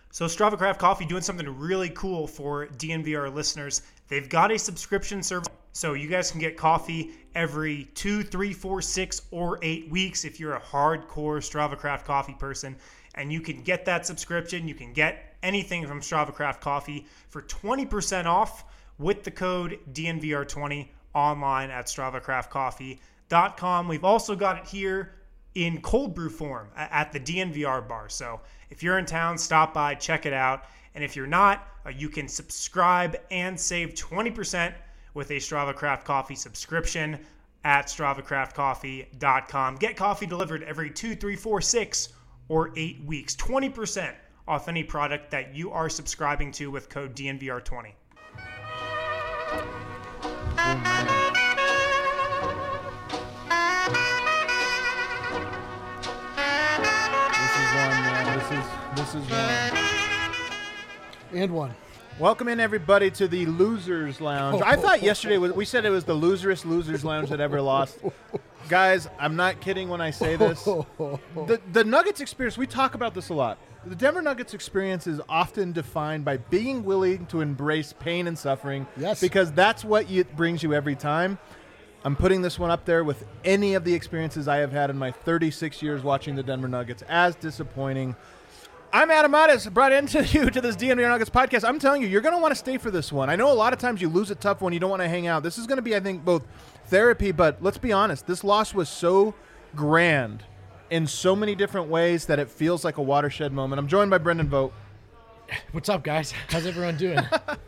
So Strava Craft Coffee doing something really cool for DNVR listeners. They've got a subscription service, so you guys can get coffee every 2, 3, 4, 6, or 8 weeks if you're a hardcore Strava Craft Coffee person. And you can get that subscription. You can get anything from Strava Craft Coffee for 20% off with the code DNVR20 online at StravaCraftCoffee.com. We've also got it here in cold brew form at the DNVR bar. So if you're in town, stop by, check it out. And if you're not, you can subscribe and save 20% with a Strava Craft Coffee subscription at StravaCraftCoffee.com. Get coffee delivered every 2, 3, 4, 6, or 8 weeks. 20% off any product that you are subscribing to with code DNVR20. This is one. And one. Welcome in, everybody, to the Losers Lounge. I thought yesterday we said it was the loserest Losers Lounge that ever lost. Guys, I'm not kidding when I say this. The Nuggets experience, we talk about this a lot. The Denver Nuggets experience is often defined by being willing to embrace pain and suffering. Yes. Because that's what brings you every time. I'm putting this one up there with any of the experiences I have had in my 36 years watching the Denver Nuggets as disappointing. I'm Adam Mattis, brought into you to this DNVR Nuggets podcast. I'm telling you, you're going to want to stay for this one. I know a lot of times you lose a tough one. You don't want to hang out. This is going to be, I think, both therapy, but let's be honest. This loss was so grand in so many different ways that it feels like a watershed moment. I'm joined by Brendan Vogt. What's up, guys? How's everyone doing?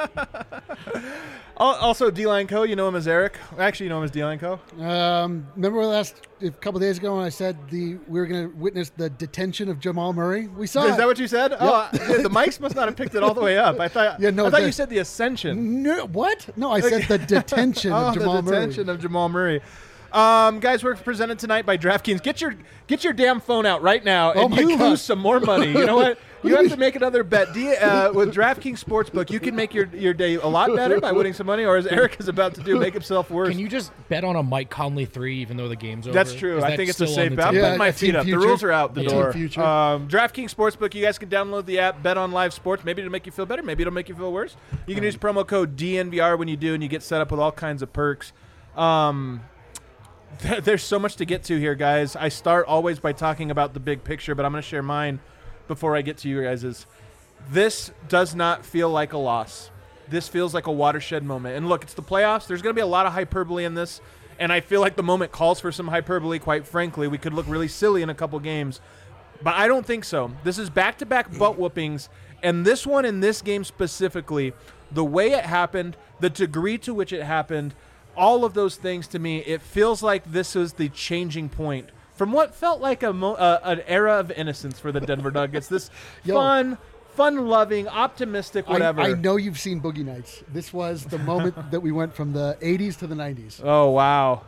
Also, D-Line Co. You know him as Eric. Actually, you know him as D-Line Co. Remember a couple days ago when I said we were going to witness the detention of Jamal Murray? We saw Is that what you said? Yep. Oh, the mics must not have picked it all the way up. I thought you said the ascension. No, what? No, I said the detention of Jamal Murray. The detention of Jamal Murray. Guys, we're presented tonight by DraftKings. Get your damn phone out right now, and you lose some more money. You know what? You have to make another bet. With DraftKings Sportsbook, you can make your day a lot better by winning some money, or as Eric is about to do, make himself worse. Can you just bet on a Mike Conley 3 even though the game's over? That's true. I think it's a safe bet. I'm putting my feet up. The rules are out the door. DraftKings Sportsbook, you guys can download the app, bet on live sports. Maybe it'll make you feel better. Maybe it'll make you feel worse. You can use promo code DNVR when you do, and you get set up with all kinds of perks. There's so much to get to here, guys. I start always by talking about the big picture, but I'm going to share mine before I get to you guys. This does not feel like a loss. This feels like a watershed moment. And look, it's the playoffs. There's going to be a lot of hyperbole in this, and I feel like the moment calls for some hyperbole, quite frankly. We could look really silly in a couple games, but I don't think so. This is back-to-back butt whoopings, and this one in this game specifically, the way it happened, the degree to which it happened, all of those things, to me, it feels like this was the changing point from what felt like an era of innocence for the Denver Nuggets. This fun-loving, optimistic, whatever. I know you've seen Boogie Nights. This was the moment that we went from the 80s to the 90s. Oh, wow.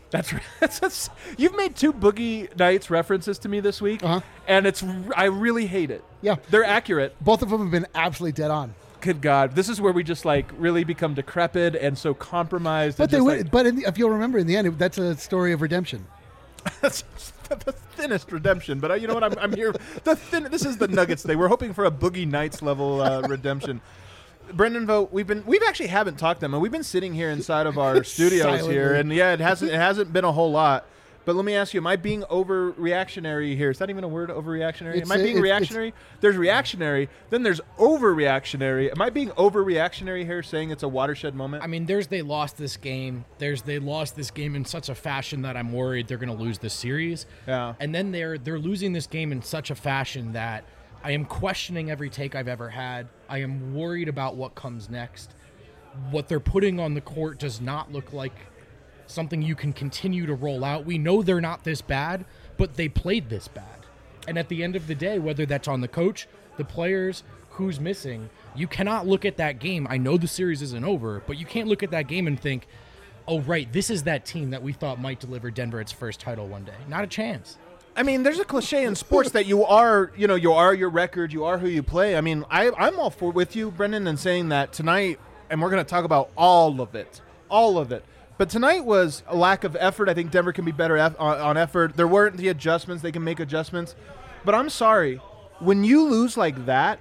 That's you've made 2 Boogie Nights references to me this week, and I really hate it. Yeah. They're accurate. Both of them have been absolutely dead on. Good God. This is where we just really become decrepit and so compromised. But if you'll remember, in the end, that's a story of redemption. That's the thinnest redemption. But you know what? I'm here. This is the Nuggets Day. We're hoping for a Boogie Nights level redemption. Brendan Vogt, we've actually haven't talked to them. We've been sitting here inside of our studios here, and yeah, it hasn't been a whole lot. But let me ask you, am I being overreactionary here? Is that even a word, overreactionary? Am I being reactionary? There's reactionary, then there's overreactionary. Am I being overreactionary here, saying it's a watershed moment? I mean, they lost this game. They lost this game in such a fashion that I'm worried they're going to lose this series. Yeah. And then they're losing this game in such a fashion that I am questioning every take I've ever had. I am worried about what comes next. What they're putting on the court does not look like something you can continue to roll out. We know they're not this bad, but they played this bad. And at the end of the day, whether that's on the coach, the players, who's missing, you cannot look at that game. I know the series isn't over, but you can't look at that game and think, oh, right, this is that team that we thought might deliver Denver its first title one day. Not a chance. I mean, there's a cliche in sports that you are your record, you are who you play. I mean, I'm all for with you, Brendan, and saying that tonight, and we're going to talk about all of it. But tonight was a lack of effort. I think Denver can be better on effort. There weren't the adjustments. They can make adjustments. But I'm sorry. When you lose like that,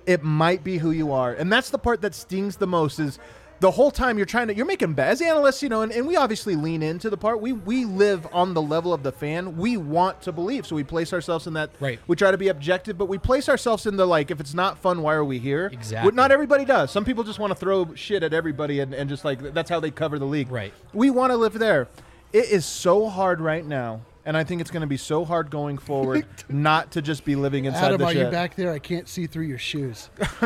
it might be who you are. And that's the part that stings the most is the whole time you're making bets. As analysts, and we obviously lean into the part. We live on the level of the fan. We want to believe. So we place ourselves in that. Right. We try to be objective, but we place ourselves in the, like, if it's not fun, why are we here? Exactly. Not everybody does. Some people just want to throw shit at everybody and just like, that's how they cover the league. Right. We want to live there. It is so hard right now. And I think it's going to be so hard going forward not to just be living inside Adam, the are shit. you back there? I can't see through your shoes.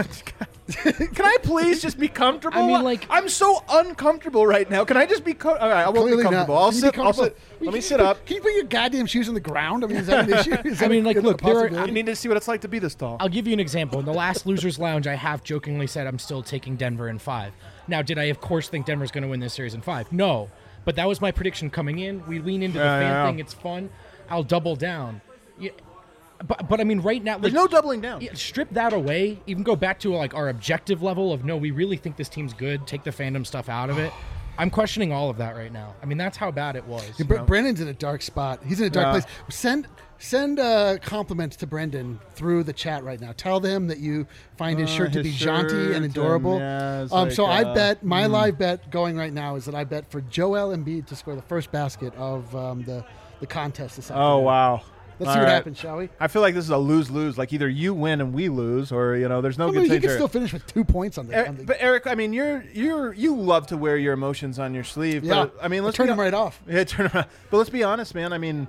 Can I please just be comfortable? I mean, like- I'm so uncomfortable right now. Can I just be? All right, I won't Clearly be comfortable. not. I'll Can you sit. be I'll sit. comfortable? Let me sit up. Can you put your goddamn shoes on the ground? I mean, is that an issue? Is that I mean, a- like, a look, there are- possibility? I need to see what it's like to be this tall. I'll give you an example. In the last Losers Lounge, I half jokingly said I'm still taking Denver in 5. Now, did I, of course, think Denver's going to win this series in 5? No. But that was my prediction coming in. We lean into the fan thing. It's fun. I'll double down. Yeah, but I mean, right now, There's like, no doubling down. yeah, strip that away. Even go back to like our objective level of no, we really think this team's good. Take the fandom stuff out of it. I'm questioning all of that right now. I mean, that's how bad it was. Yeah, Brendan's in a dark spot. He's in a dark Yeah. place. Send compliments to Brendan through the chat right now. Tell them that you find his shirt to his be jaunty and shirt, adorable. yeah, it's So like, I bet my live bet going right now is that I bet for Joel Embiid to score the first basket of the contest this afternoon. Oh wow. Let's All see what right. happens, shall we? I feel like this is a lose-lose. Like either you win and we lose, or there's no I good mean, he change can there. still finish with 2 points on the. But Eric, I mean, you love to wear your emotions on your sleeve. Yeah, But, I mean, let's turn be them right off. Yeah, turn around. But let's be honest, man. I mean,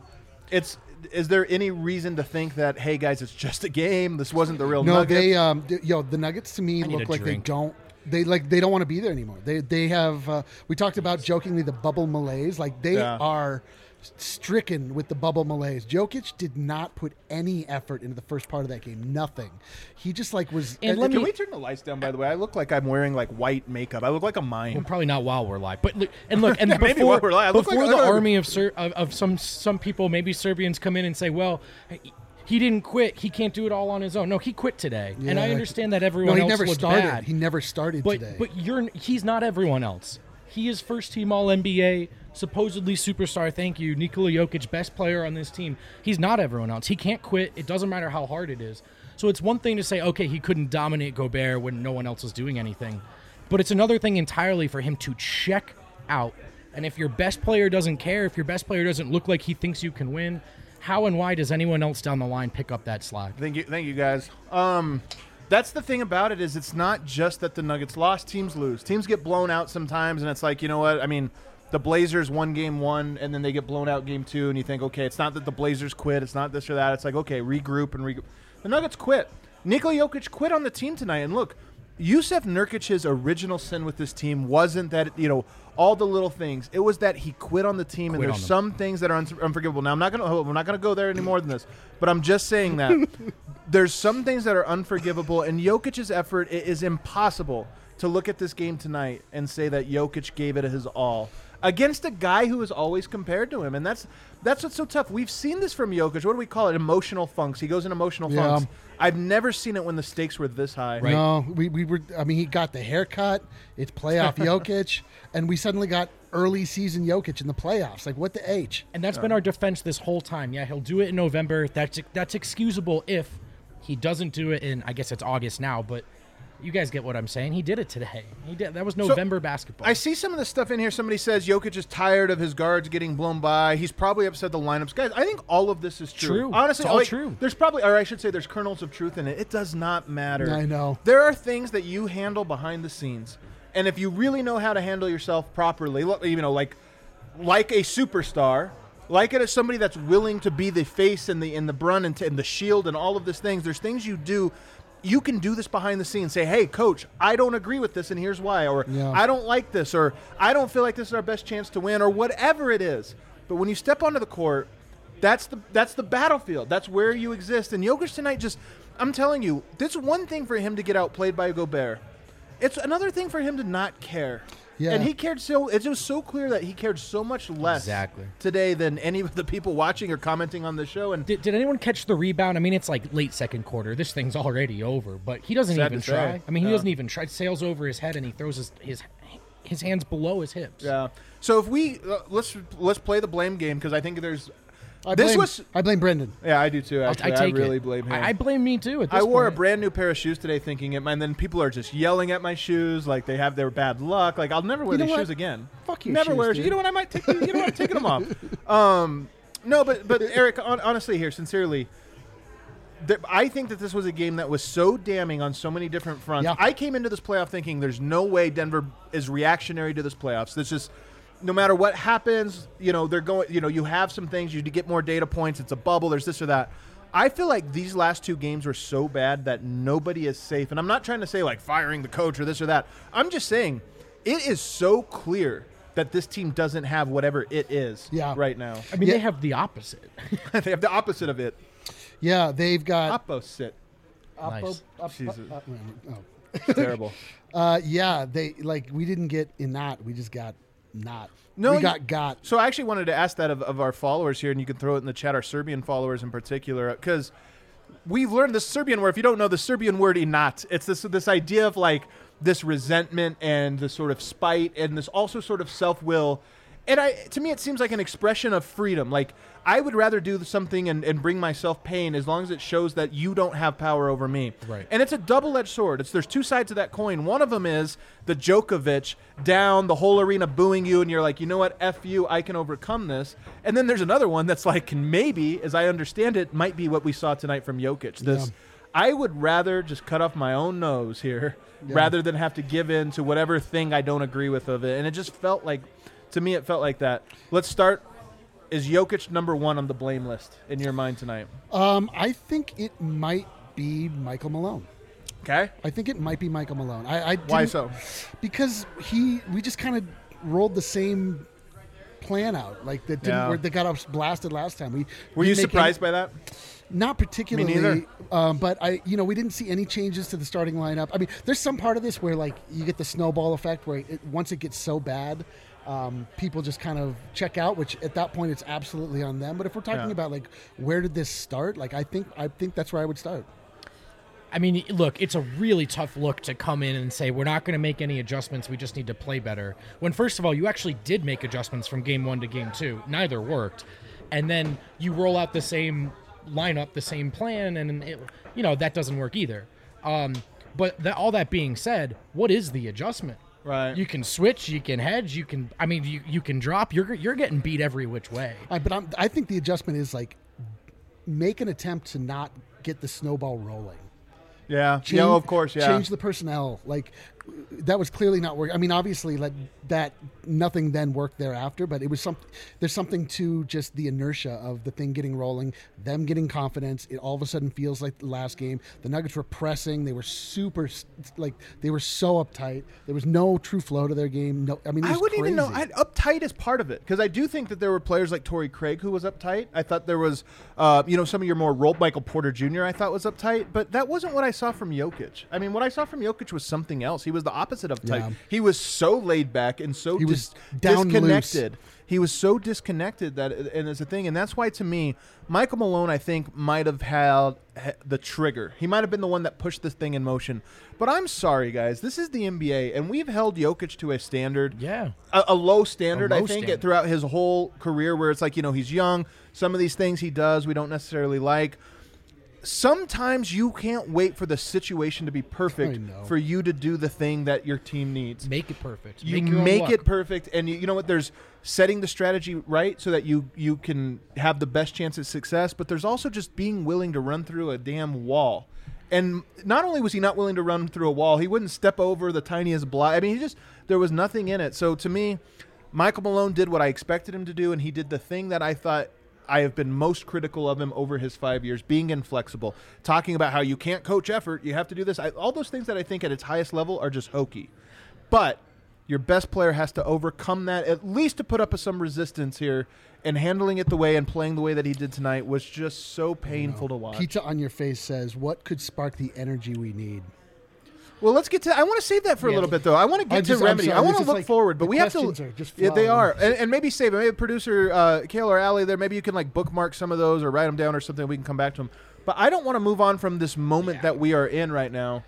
is there any reason to think that, hey guys, it's just a game? This wasn't the real No, Nuggets? the Nuggets to me I need look a like drink. they don't want to be there anymore. They have we talked about jokingly the bubble malaise. Like they Yeah. are stricken with the bubble malaise. Jokic did not put any effort into the first part of that game. Nothing. He just like was. And Can we turn the lights down? By the way, I look like I'm wearing like white makeup. I look like a mime. Well, probably not while we're live, but look, and Maybe before, while we're live. I look before like the another- army of some people, maybe Serbians come in and say, well, he didn't quit. He can't do it all on his own. No, he quit today, and I Yeah. understand that No, everyone he else never looked started. bad. He never started today. But he's not everyone else. He is first team All NBA, supposedly superstar. Thank you, Nikola Jokic, best player on this team. He's not everyone else. He can't quit. It doesn't matter how hard it is. So it's one thing to say, okay, he couldn't dominate Gobert when no one else was doing anything, but it's another thing entirely for him to check out. And if your best player doesn't care, if your best player doesn't look like he thinks you can win, how and why does anyone else down the line pick up that slack? Thank you, guys. That's the thing about it is it's not just that the Nuggets lost. Teams lose. Teams get blown out sometimes, and it's like, you know what? I mean, the Blazers won game 1, and then they get blown out game 2, and you think, okay, it's not that the Blazers quit. It's not this or that. It's like, okay, regroup. The Nuggets quit. Nikola Jokic quit on the team tonight, and look, Yusuf Nurkic's original sin with this team wasn't that, all the little things. It was that he quit on the team, and Quit there's on them. some things that are unforgivable. Now, we're not gonna go there any more than this, but I'm just saying that there's some things that are unforgivable, and Jokic's effort, it is impossible to look at this game tonight and say that Jokic gave it his all against a guy who is always compared to him, and that's what's so tough. We've seen this from Jokic. What do we call it? Emotional funks. He goes in emotional Yeah. funks. I've never seen it when the stakes were this high. Right. No, we were. I mean, he got the haircut. It's playoff Jokic, and we suddenly got early season Jokic in the playoffs. Like, what the H? And that's been our defense this whole time. Yeah, he'll do it in November. That's excusable if he doesn't do it in, I guess it's August now, but you guys get what I'm saying. He did it today. He did. That was November basketball. I see some of the stuff in here. Somebody says Jokic is tired of his guards getting blown by. He's probably upset the lineups. Guys, I think all of this is true. True. Honestly, It's all true. There's probably, or I should say there's kernels of truth in it. It does not matter. I know. There are things that you handle behind the scenes. And if you really know how to handle yourself properly, like a superstar, like it as somebody that's willing to be the face and the brunt and the shield and all of these things, there's things you do. You can do this behind the scenes. Say, hey, coach, I don't agree with this, and here's why. Or Yeah. I don't like this, or I don't feel like this is our best chance to win, or whatever it is. But when you step onto the court, that's the battlefield. That's where you exist. And Jokic tonight I'm telling you, it's one thing for him to get outplayed by Gobert. It's another thing for him to not care. Yeah. And he cared it was so clear that he cared so much less Exactly. today than any of the people watching or commenting on the show. And Did anyone catch the rebound? I mean, it's like late second quarter. This thing's already over, but he doesn't Sad even to say. try. I mean, he Yeah. doesn't even try. It sails over his head, and he throws his hands below his hips. yeah. So if we let's play the blame game, because I think there's I blame Brendan. Yeah, I do too. Actually, I really blame him. I blame me too. At this I wore a point. brand new pair of shoes today, thinking it, and then people are just yelling at my shoes like they have their bad luck. Like I'll never wear You know these what? shoes again. Fuck your never shoes, wear. dude. You know what? I might take. You know what? I'm taking them off. No, but Eric, honestly, here, sincerely. I think that this was a game that was so damning on so many different fronts. Yeah. I came into this playoff thinking there's no way Denver is reactionary to this playoffs. This is no matter what happens, they're going, you have some things, you get more data points, it's a bubble, there's this or that. I feel like these last two games were so bad that nobody is safe. And I'm not trying to say like firing the coach or this or that. I'm just saying it is so clear that this team doesn't have whatever it is right now. I mean, they have the opposite. They have the opposite of it. Yeah, they've got Opposite. Nice. Jesus. oh. Terrible. Yeah, we didn't get in that. We just got not. No, we got. So I actually wanted to ask that of our followers here, and you can throw it in the chat, our Serbian followers in particular, because we've learned the Serbian word. If you don't know the Serbian word, inat, it's this idea of like this resentment and this sort of spite and this also sort of self-will. And to me, it seems like an expression of freedom. Like, I would rather do something and bring myself pain as long as it shows that you don't have power over me. Right. And it's a double-edged sword. There's two sides of that coin. One of them is the Djokovic down, the whole arena booing you, and you're like, you know what, F you, I can overcome this. And then there's another one that's like, maybe, as I understand it, might be what we saw tonight from Jokic. I would rather just cut off my own nose here rather than have to give in to whatever thing I don't agree with of it. And it just felt like, to me, it felt like that. Let's start. Is Jokic number one on the blame list in your mind tonight? I think it might be Michael Malone. Okay. I think it might be Michael Malone. Why so? Because we just kind of rolled the same plan out. Like that didn't where they got us blasted last time. Were you surprised by that? Not particularly. Me neither. But we didn't see any changes to the starting lineup. I mean, there's some part of this where like you get the snowball effect where once it gets so bad, people just kind of check out, which at that point it's absolutely on them. But if we're talking about like where did this start, like I think that's where I would start. I mean, look, it's a really tough look to come in and say we're not going to make any adjustments. We just need to play better. When first of all, you actually did make adjustments from game 1 to game 2. Neither worked, and then you roll out the same lineup, the same plan, and that doesn't work either. But all that being said, what is the adjustment? Right. You can switch, you can hedge, you can drop. You're getting beat every which way. But I think the adjustment is like make an attempt to not get the snowball rolling. Yeah. Of course. Yeah. Change the personnel. Like that was clearly not working. I mean, obviously, that nothing then worked thereafter. But it was there's something to just the inertia of the thing getting rolling, them getting confidence. It all of a sudden feels like the last game. The Nuggets were pressing. They were they were so uptight. There was no true flow to their game. No, I mean, it was I wouldn't crazy. even know. Uptight is part of it because I do think that there were players like Torrey Craig who was uptight. I thought there was, some of your more role. Michael Porter Jr. I thought was uptight, but that wasn't what I saw from Jokic. I mean, what I saw from Jokic was something else. He was the opposite of tight. Yeah. He was so laid back and so down disconnected. loose. He was so disconnected and it's a thing, and that's why to me, Michael Malone, I think, might have had the trigger. He might have been the one that pushed this thing in motion. But I'm sorry, guys. This is the NBA, and we've held Jokic to a standard, a low standard, I think, throughout his whole career, where it's like, he's young. Some of these things he does we don't necessarily like. Sometimes you can't wait for the situation to be perfect for you to do the thing that your team needs. Make it perfect. You make it perfect, and you know what? There's setting the strategy right so that you can have the best chance at success, but there's also just being willing to run through a damn wall. And not only was he not willing to run through a wall, he wouldn't step over the tiniest block. I mean, there was nothing in it. So to me, Michael Malone did what I expected him to do, and he did the thing that I thought I have been most critical of him over his 5 years, being inflexible, talking about how you can't coach effort, you have to do this. All those things that I think at its highest level are just hokey. But your best player has to overcome that, at least to put up some resistance here, and handling it the way and playing the way that he did tonight was just so painful to watch. Pizza on your face says, what could spark the energy we need? Well, let's get to. I want to save that for a little bit, though. I want to get to remedy. I want to look forward, but we have to. Yeah, they are, and maybe save it. Maybe producer Kale or Allie there. Maybe you can bookmark some of those or write them down or something. We can come back to them. But I don't want to move on from this moment that we are in right now.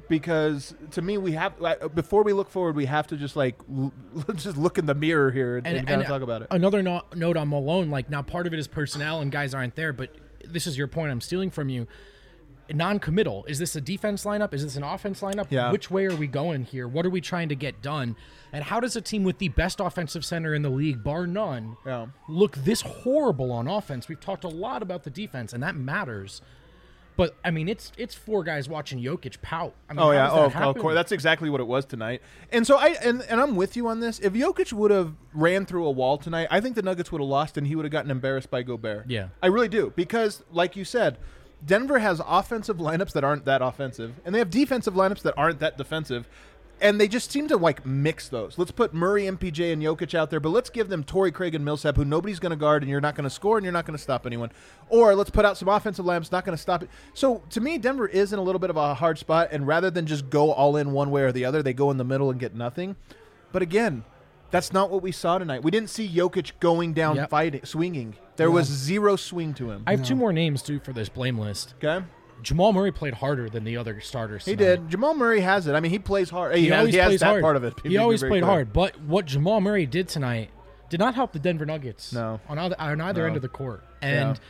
because to me, we have before we look forward, we have to just like just look in the mirror here and kind of talk about it. Another note on Malone, like now part of it is personnel and guys aren't there, but this is your point I'm stealing from you. Non-committal. Is this a defense lineup? Is this an offense lineup? Yeah. Which way are we going here? What are we trying to get done? And how does a team with the best offensive center in the league, bar none, look this horrible on offense? We've talked a lot about the defense, and that matters. But, I mean, it's four guys watching Jokic pout. I mean, of course. That's exactly what it was tonight. And so and I'm with you on this. If Jokic would have ran through a wall tonight, I think the Nuggets would have lost and he would have gotten embarrassed by Gobert. Yeah. I really do. Because, like you said, Denver has offensive lineups that aren't that offensive, and they have defensive lineups that aren't that defensive, and they just seem to, like, mix those. Let's put Murray, MPJ, and Jokic out there, but let's give them Torrey Craig and Millsap, who nobody's going to guard, and you're not going to score, and you're not going to stop anyone. Or let's put out some offensive lineups, not going to stop it. So, to me, Denver is in a little bit of a hard spot, and rather than just go all in one way or the other, they go in the middle and get nothing. But, again, that's not what we saw tonight. We didn't see Jokic going down fighting, swinging. There was zero swing to him. I have two more names, too, for this blame list. Okay. Jamal Murray played harder than the other starters tonight. He did. Jamal Murray has it. I mean, he plays hard. He always has plays that hard. part of it. He always played hard. But what Jamal Murray did tonight did not help the Denver Nuggets on either end of the court. And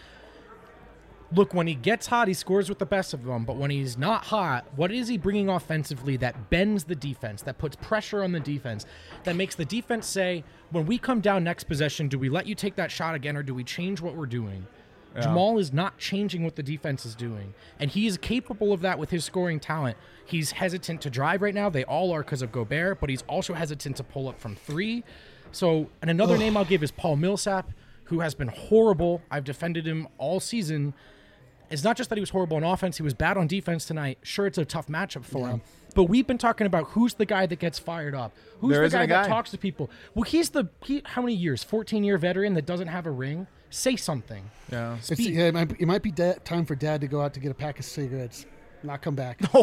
look, when he gets hot, he scores with the best of them. But when he's not hot, what is he bringing offensively that bends the defense, that puts pressure on the defense, that makes the defense say, when we come down next possession, do we let you take that shot again or do we change what we're doing? Yeah. Jamal is not changing what the defense is doing, and he is capable of that with his scoring talent. He's hesitant to drive right now. They all are because of Gobert, but he's also hesitant to pull up from three. So, and another name I'll give is Paul Millsap, who has been horrible. I've defended him all season. It's not just that he was horrible on offense. He was bad on defense tonight. Sure, it's a tough matchup for him. But we've been talking about who's the guy that gets fired up. Who's the guy that talks to people? Well, he's how many years? 14-year veteran that doesn't have a ring? Say something. Yeah. It might be time for Dad to go out to get a pack of cigarettes. Not come back. Oh,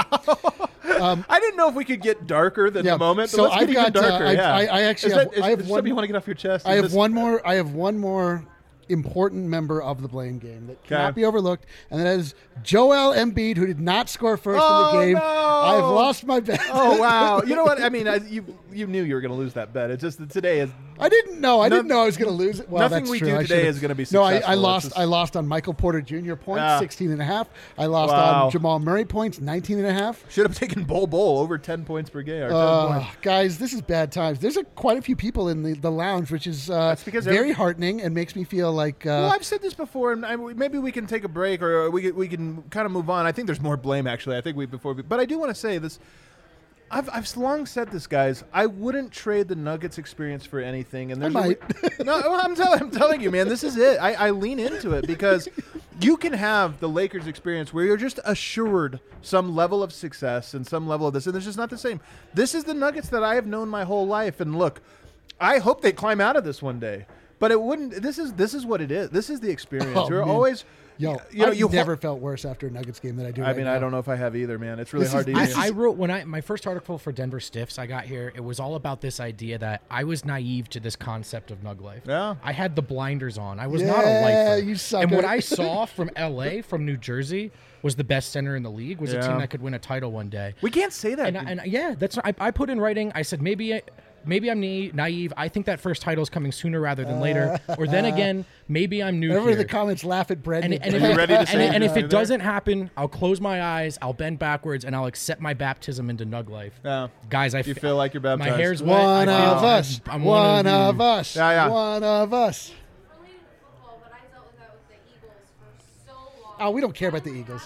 wow. I didn't know if we could get darker than the moment. So let's get even darker. I actually have one. You want to get off your chest? I have one more important member of the blame game that cannot be overlooked, and that is Joel Embiid, who did not score first in the game. No. I have lost my bet. Oh, wow. You know what? I mean, you knew you were going to lose that bet. It's just that today is... I didn't know. I didn't know I was going to lose it. Well, nothing that's we true. do today is going to be successful. No, I lost on Michael Porter Jr. points, 16.5. I lost on Jamal Murray points, 19.5. Should have taken Bol over 10 points per game. Guys, this is bad times. There's quite a few people in the lounge, which is very heartening and makes me feel like... well, I've said this before, and maybe we can take a break or we can kind of move on. I think there's more blame, actually. I think but I do want to say this. I've long said this, guys. I wouldn't trade the Nuggets experience for anything. And there's I'm telling you, man, this is it. I lean into it because you can have the Lakers experience where you're just assured some level of success and some level of this, and it's just not the same. This is the Nuggets that I have known my whole life, and look, I hope they climb out of this one day. But it wouldn't. This is what it is. This is the experience. You're always. I've never felt worse after a Nuggets game than I do right now. I don't know if I have either, man. It's really hard to hear. I wrote my first article for Denver Stiffs I got here, it was all about this idea that I was naive to this concept of Nug Life. Yeah. I had the blinders on. I was not a lifer. You sucker. And what I saw from LA, from New Jersey, was the best center in the league, was a team that could win a title one day. We can't say that. And that's I put in writing, I said maybe I'm naive. I think that first title is coming sooner rather than later. Or then again, maybe I'm new Whenever here. the comments laugh at Brett. And if it doesn't happen, I'll close my eyes, I'll bend backwards, and I'll accept my baptism into Nug Life. Yeah. Guys, you feel like you're baptized. My hair's wet. One of us. I'm one of us. Yeah. One of us. Oh, we don't care about the Eagles.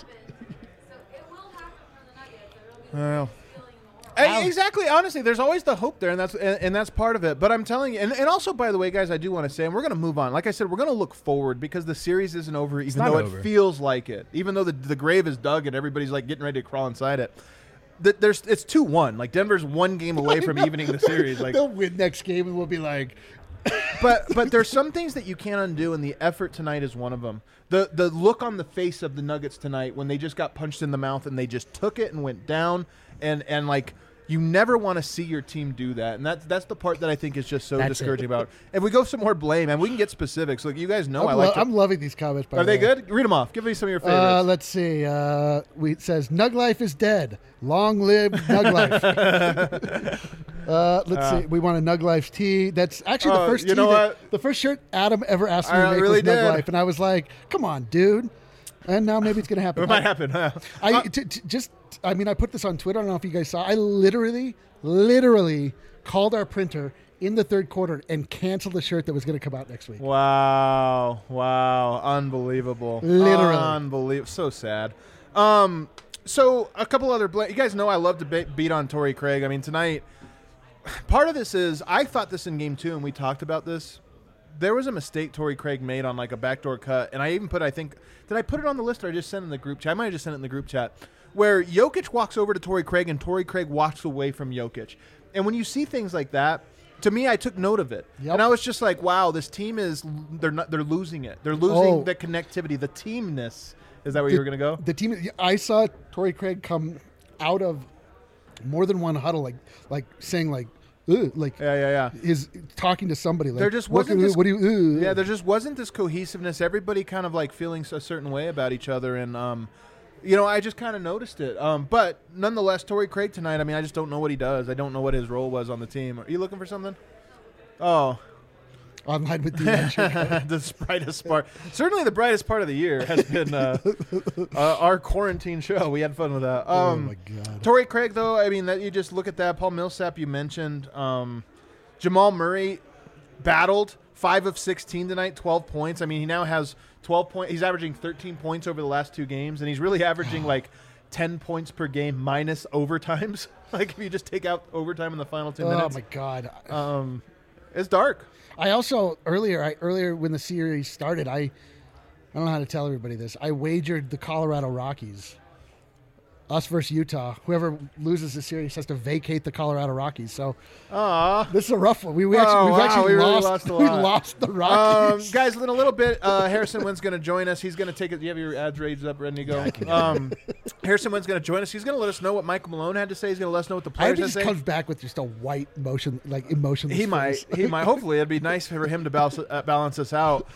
Well. Exactly. Honestly, there's always the hope there, and that's part of it. But I'm telling you, and also, by the way, guys, I do want to say, and we're going to move on. Like I said, we're going to look forward because the series isn't over, even though it feels like it. Even though the grave is dug and everybody's like getting ready to crawl inside it. It's 2-1. Like Denver's one game away from evening the series. Like they'll win next game, and we'll be like. But there's some things that you can't undo, and the effort tonight is one of them. The look on the face of the Nuggets tonight when they just got punched in the mouth and they just took it and went down and like. You never want to see your team do that, and that's the part that I think is just so That's discouraging it. about it. If we go some more blame, and we can get specifics. Like, you guys know, I'm loving these comments. By Are the they way. good? Read them off. Give me some of your favorites. Let's see. It says Nug Life is dead. Long live Nug Life. Let's see. We want a Nug Life tee. That's actually the first you tee. know what? The first shirt Adam ever asked me to I make really was Nug did. Life, and I was like, "Come on, dude." And now maybe it's gonna happen. It might happen. Huh? I mean, I put this on Twitter. I don't know if you guys saw. I literally called our printer in the third quarter and canceled the shirt that was going to come out next week. Wow. Unbelievable. Literally. Unbelievable. So sad. So a couple other you guys know I love to beat on Torrey Craig. I mean, tonight, part of this is I thought this in game 2, and we talked about this. There was a mistake Torrey Craig made on like a backdoor cut, and I even put, I think, did I put it on the list or I just sent it in the group chat? I might have just sent it in the group chat, where Jokic walks over to Torrey Craig and Torrey Craig walks away from Jokic. And when you see things like that, to me, I took note of it. Yep. And I was just like, wow, this team they're losing it. They're losing the connectivity, the teamness. Is that where you were going to go? The team. I saw Torrey Craig come out of more than one huddle, like saying like, "Ugh," like Yeah. is talking to somebody. Like, There just wasn't this, what do you? Yeah, there just wasn't this cohesiveness. Everybody kind of like feeling a certain way about each other, and I just kind of noticed it. But nonetheless, Torrey Craig tonight. I mean, I just don't know what he does. I don't know what his role was on the team. Are you looking for something? Oh, Online with the the brightest part. Certainly, the brightest part of the year has been our quarantine show. We had fun with that. Oh my God. Torrey Craig, though, I mean, that you just look at that. Paul Millsap, you mentioned. Jamal Murray battled 5 of 16 tonight, 12 points. I mean, he now has 12 points. He's averaging 13 points over the last 2 games, and he's really averaging like 10 points per game minus overtimes. Like, if you just take out overtime in the final 10 minutes. Oh my God. It's dark. I also earlier when the series started, I don't know how to tell everybody this. I wagered the Colorado Rockies, us versus Utah. Whoever loses the series has to vacate the Colorado Rockies. So this is a rough one. We actually really lost. lost a We lot. lost the Rockies. Guys, in a little bit, Harrison Wynn's going to join us. He's going to take it. Do you have your ads raised up, ready to go? Harrison Wynn's going to join us. He's going to let us know what Michael Malone had to say. He's going to let us know what the I hope players he had to just say. comes back with just a white emotionless. He might. Hopefully, it'd be nice for him to balance us out.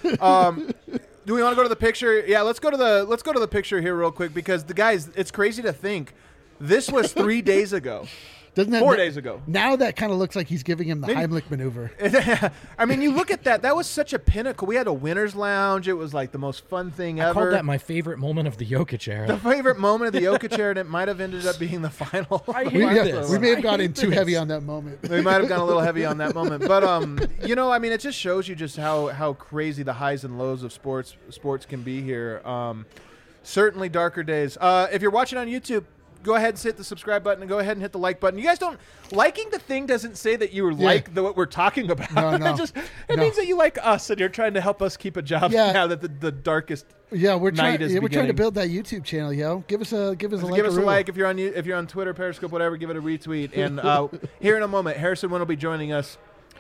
Do we want to go to the picture? Yeah, let's go to the picture here real quick, because the guys, it's crazy to think this was 3 days ago. Doesn't that 4 days ago. Now that kind of looks like he's giving him the Heimlich maneuver. I mean, you look at that. That was such a pinnacle. We had a winner's lounge. It was like the most fun thing ever. I called that my favorite moment of the Jokic era. The favorite moment of the Jokic era, and it might have ended up being the final. I hate We this. may have gone I in hate too this. heavy on that moment. We might have gone a little heavy on that moment, but I mean, it just shows you just how crazy the highs and lows of sports can be here. Certainly darker days. If you're watching on YouTube, go ahead and hit the subscribe button and go ahead and hit the like button. You guys don't liking the thing doesn't say that you like what we're talking about. No. It means that you like us and you're trying to help us keep a job now that the darkest. Yeah, we're night trying. is We're trying to beginning. build that YouTube channel, yo. Give us a like. Give us a like if you're on Twitter, Periscope, whatever. Give it a retweet. And here in a moment, Harrison Wynn will be joining us.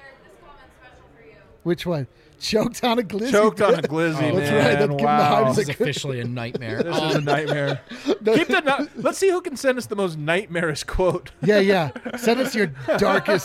Which one? Choked on a glizzy. Choked on a glizzy, Oh, man. that's right. Give him the Wow. Heimlich. This is officially a nightmare. This is a nightmare. Let's see who can send us the most nightmarish quote. Yeah. Send us your darkest.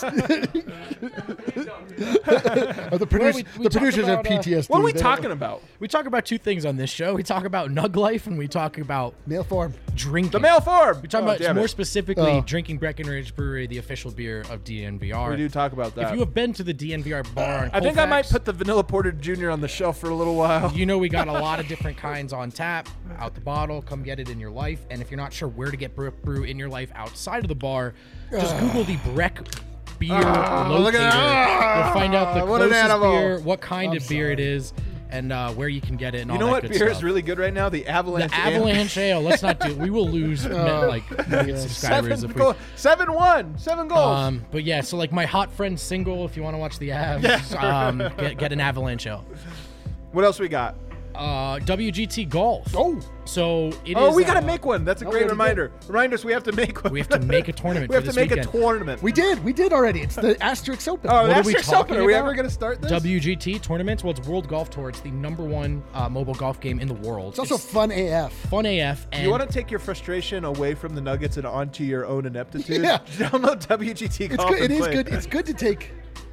The producers have PTSD. What are we They- talking about? We talk about 2 things on this show. We talk about Nug Life and we talk about Mail form. drinking. The mail form. We talk about more specifically Oh. drinking Breckenridge Brewery, the official beer of DNVR. We do talk about that. If you have been to the DNVR bar in I think I might Colfax, put the Vanilla Porter Jr. on the shelf for a little while. you know we got a lot of different kinds on tap, out the bottle. Come get it in your life. And if you're not sure where to get brew in your life outside of the bar, just Google the Breck beer look locator. at that. You'll find out the What an closest animal. beer, what kind I'm of beer it is, and where you can get it. And You all know that what good beer stuff. is really good right now? The Avalanche. The Avalanche Ale. Let's not do. We will lose subscribers if we. 7-1. 7 goals. But yeah, so like my hot friend single. If you want to watch the Avs, get an Avalanche Ale. What else we got? WGT Golf. Oh, So it is. Oh, we got to make one. That's a we great already reminder. Remind us we have to make one. We have to make a tournament. We have for to this make weekend. a tournament. we did already. It's the Asterix Open. Oh, What that's are we just talking open. Are we about? ever going to start this? WGT tournaments. Well, it's World Golf Tour. It's the #1 mobile golf game in the world. It's also fun AF. fun AF. And You want to take your frustration away from the Nuggets and onto your own ineptitude? Yeah. Download WGT It's Golf. good. It and is play. good. It's good to take.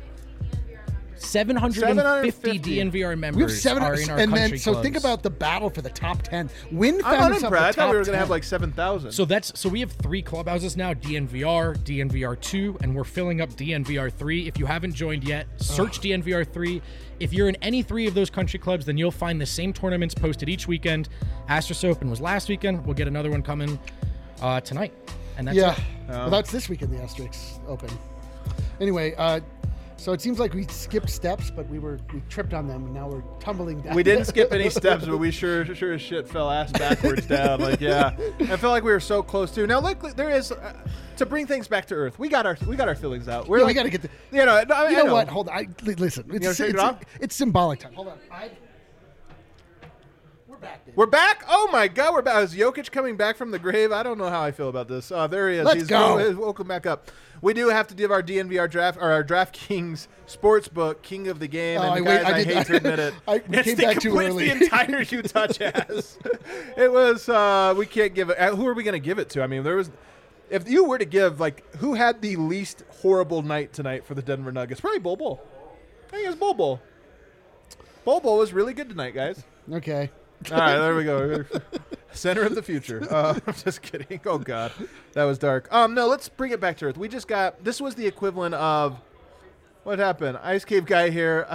750 DNVR members We have seven, are in our and country then so think clubs. about the battle for the top 10. Win I'm found itself unimpressed. the I thought we top were going to have 10. like 7,000. So we have 3 clubhouses now: DNVR, DNVR2, and we're filling up DNVR3. If you haven't joined yet, search DNVR3. If you're in any 3 of those country clubs, then you'll find the same tournaments posted each weekend. Asterix Open was last weekend. We'll get another one coming tonight, and that's Yeah. it. Well, that's this weekend, the Asterix Open. Anyway, so it seems like we skipped steps, but we tripped on them, and now we're tumbling down. we didn't skip any steps, but we sure as shit fell ass backwards down. Like, yeah, I felt like we were so close to. Now, look, there is to bring things back to earth. We got our feelings out. We're Yeah, like, we got to get the. You know, I You know know what? Hold on. Listen. wanna shake it off? It's symbolic time. Hold on. We're back. Dude. We're back. Oh my God, we're back. Is Jokic coming back from the grave? I don't know how I feel about this. There he is. Let's go. He's woken back up. We do have to give our DNVR draft or our DraftKings Sportsbook King of the Game. Oh, And I guys, I did- hate to admit it. we It's came the back too complete early. the entire Utah Jazz. It was. We can't give it. Who are we going to give it to? I mean, there was. If you were to give, like, who had the least horrible night tonight for the Denver Nuggets? Probably Bol Bol. I think it was Bol Bol. Bol Bol was really good tonight, guys. Okay. All right, there we go. Center of the future. I'm just kidding. Oh, God. That was dark. No, let's bring it back to earth. We just got – this was the equivalent of – what happened? Ice Cave Guy here.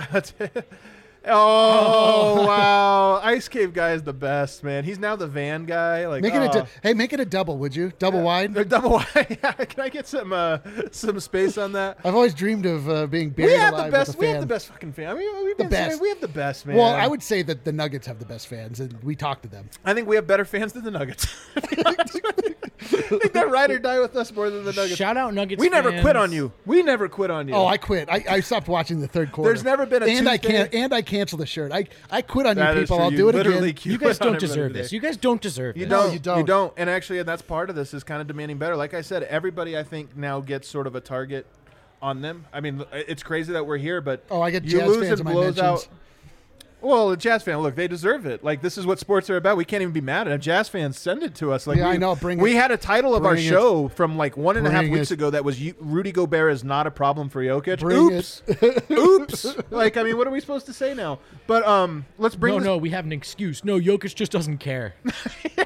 Oh, wow. Ice Cave Guy is the best, man. He's now the van guy. Like, Make it a double, would you? Double wide. Or double wide. Yeah, can I get some space on that? I've always dreamed of being buried We have alive the best. with a We fan. have the best fucking fan. I mean, we've The been saying best. we have the best, man. Well, I would say that the Nuggets have the best fans, and we talk to them. I think we have better fans than the Nuggets. I think they ride or die with us more than the Nuggets. Shout out Nuggets. We never fans. quit on you. We never quit on you. Oh, I quit. I stopped watching the third quarter. There's never been a and I Tuesday- can't. And I canceled the shirt. I quit on That you is people. true. I'll You do it literally again. You quit guys on don't everybody deserve today. this. You guys don't deserve You this. No, don't. you don't. You don't. And actually, that's part of this is kind of demanding better. Like I said, everybody I think now gets sort of a target on them. I mean, it's crazy that we're here, but Oh, I get you Jazz lose fans and in my blows out. mentions. Well, a Jazz fan, look, they deserve it. Like, this is what sports are about. We can't even be mad at them. Jazz fans, send it to us. Like, Yeah, we, I know. Bring we it. had a title of our Bring it. show from like 1.5 Bring weeks it. ago that was Rudy Gobert is not a problem for Jokic. Bring Oops. Oops. Like, I mean, what are we supposed to say now? But let's bring this. No, we have an excuse. No, Jokic just doesn't care. A lot of people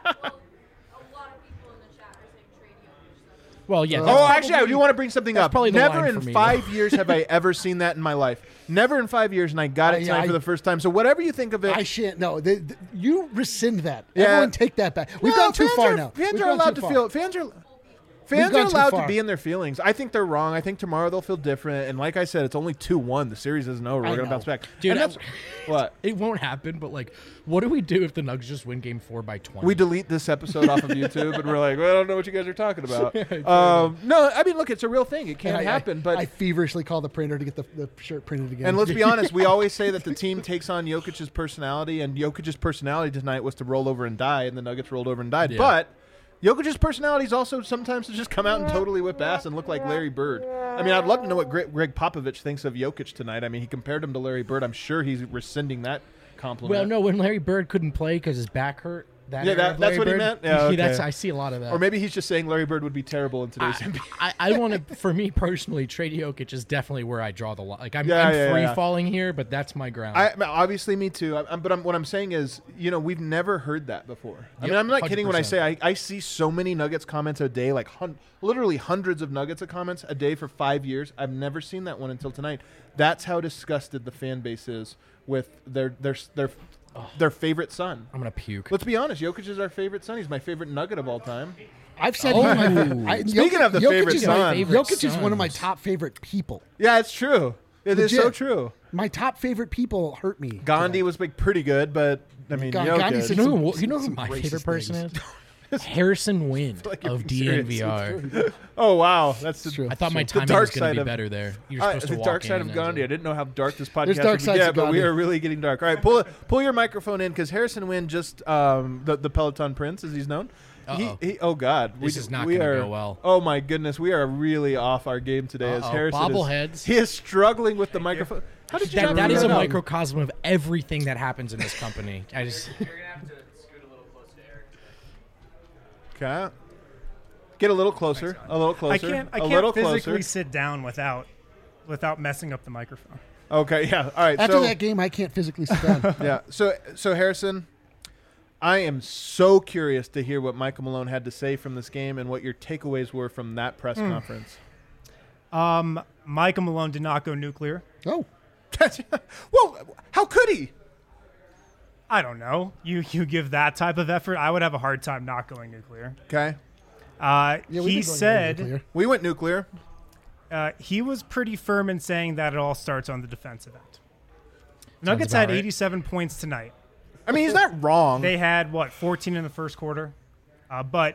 in the chat are saying trade Jokic. Well, yeah. Oh, that's actually, I do want to bring something that's up. probably the Never line in for me, 5 years have I ever seen that in my life. Never in 5 years, and I got it Yeah, tonight for the first time. So whatever you think of it, I shan't. No, you rescind that. Yeah. Everyone take that back. We've No, gone too fans far are- now. Fans We've are gone allowed too to far. feel. Fans are gone too allowed to far. be in their feelings. I think they're wrong. I think tomorrow they'll feel different. And like I said, it's only 2-1. The series isn't over. We're I gonna know. bounce back, Dude, And that's what It won't happen, but like, what do we do if the Nuggets just win Game 4 by 20? we delete this episode off of YouTube, and we're like, well, I don't know what you guys are talking about. No, I mean, look, it's a real thing. It can And happen, but I feverishly call the printer to get the shirt printed again. And let's be honest, we always say that the team takes on Jokic's personality, and Jokic's personality tonight was to roll over and die, and the Nuggets rolled over and died. Yeah. But Jokic's personality is also sometimes to just come out and totally whip ass and look like Larry Bird. I mean, I'd love to know what Greg Popovich thinks of Jokic tonight. I mean, he compared him to Larry Bird. I'm sure he's rescinding that compliment. Well, no, when Larry Bird couldn't play because his back hurt. Yeah, era of that's Larry what he Bird, meant? Yeah, okay. I see a lot of that. Or maybe he's just saying Larry Bird would be terrible in today's NBA. I want to, for me personally, trade Jokic is definitely where I draw the line. Like, I'm Yeah. free falling here, but that's my ground. Obviously, me too. What I'm saying is, we've never heard that before. I mean, Yep, I'm not kidding when I 100%. say I see so many Nuggets comments a day, like literally hundreds of Nuggets comments a day for 5 years. I've never seen that one until tonight. That's how disgusted the fan base is with their favorite son. I'm gonna puke. Let's be honest. Jokic is our favorite son. He's my favorite Nugget of all time. I've said Oh. Speaking of the favorite is, son. Jokic is one of my sons. top favorite people. Yeah, it's true. It is Legit. so true. My top favorite people hurt me. Gandhi was like pretty good, but I mean, Ga- Jokic. Gandhi said You know, some- who, you know who some my racist favorite person things. is? Harrison Wynn like you're of being serious. DNVR. Oh wow, that's True. I thought my The timing dark was going side to of- be better there. You're supposed to the walk dark side in of and Gandhi. I didn't know how dark this podcast dark would sides get, of but we Gandhi. are really getting dark. All right, pull your microphone in because Harrison Wynn just the Peloton Prince, as he's known. Uh-oh. Oh God, This is not we gonna are- go well. Oh my goodness, we are really off our game today. As Uh-oh, Harrison bobbleheads. he is struggling with the microphone. How did you not That is figure a that out? microcosm of everything that happens in this company. I just You're gonna have to scoot a little closer to Eric. Okay. Get a little closer. A little closer. I a little can't physically closer. sit down without messing up the microphone. Okay. Yeah. All right. After so that game, I can't physically sit down. yeah. So Harrison, I am so curious to hear what Michael Malone had to say from this game and what your takeaways were from that press conference. Michael Malone did not go nuclear. Oh, Well, how could he? I don't know. You give that type of effort, I would have a hard time not going nuclear. Okay. yeah. we've been He going said nuclear. We went nuclear. he was pretty firm in saying that it all starts on the defensive end. Nuggets had about right. 87 points tonight. I mean, he's not wrong. They had 14 in the first quarter, but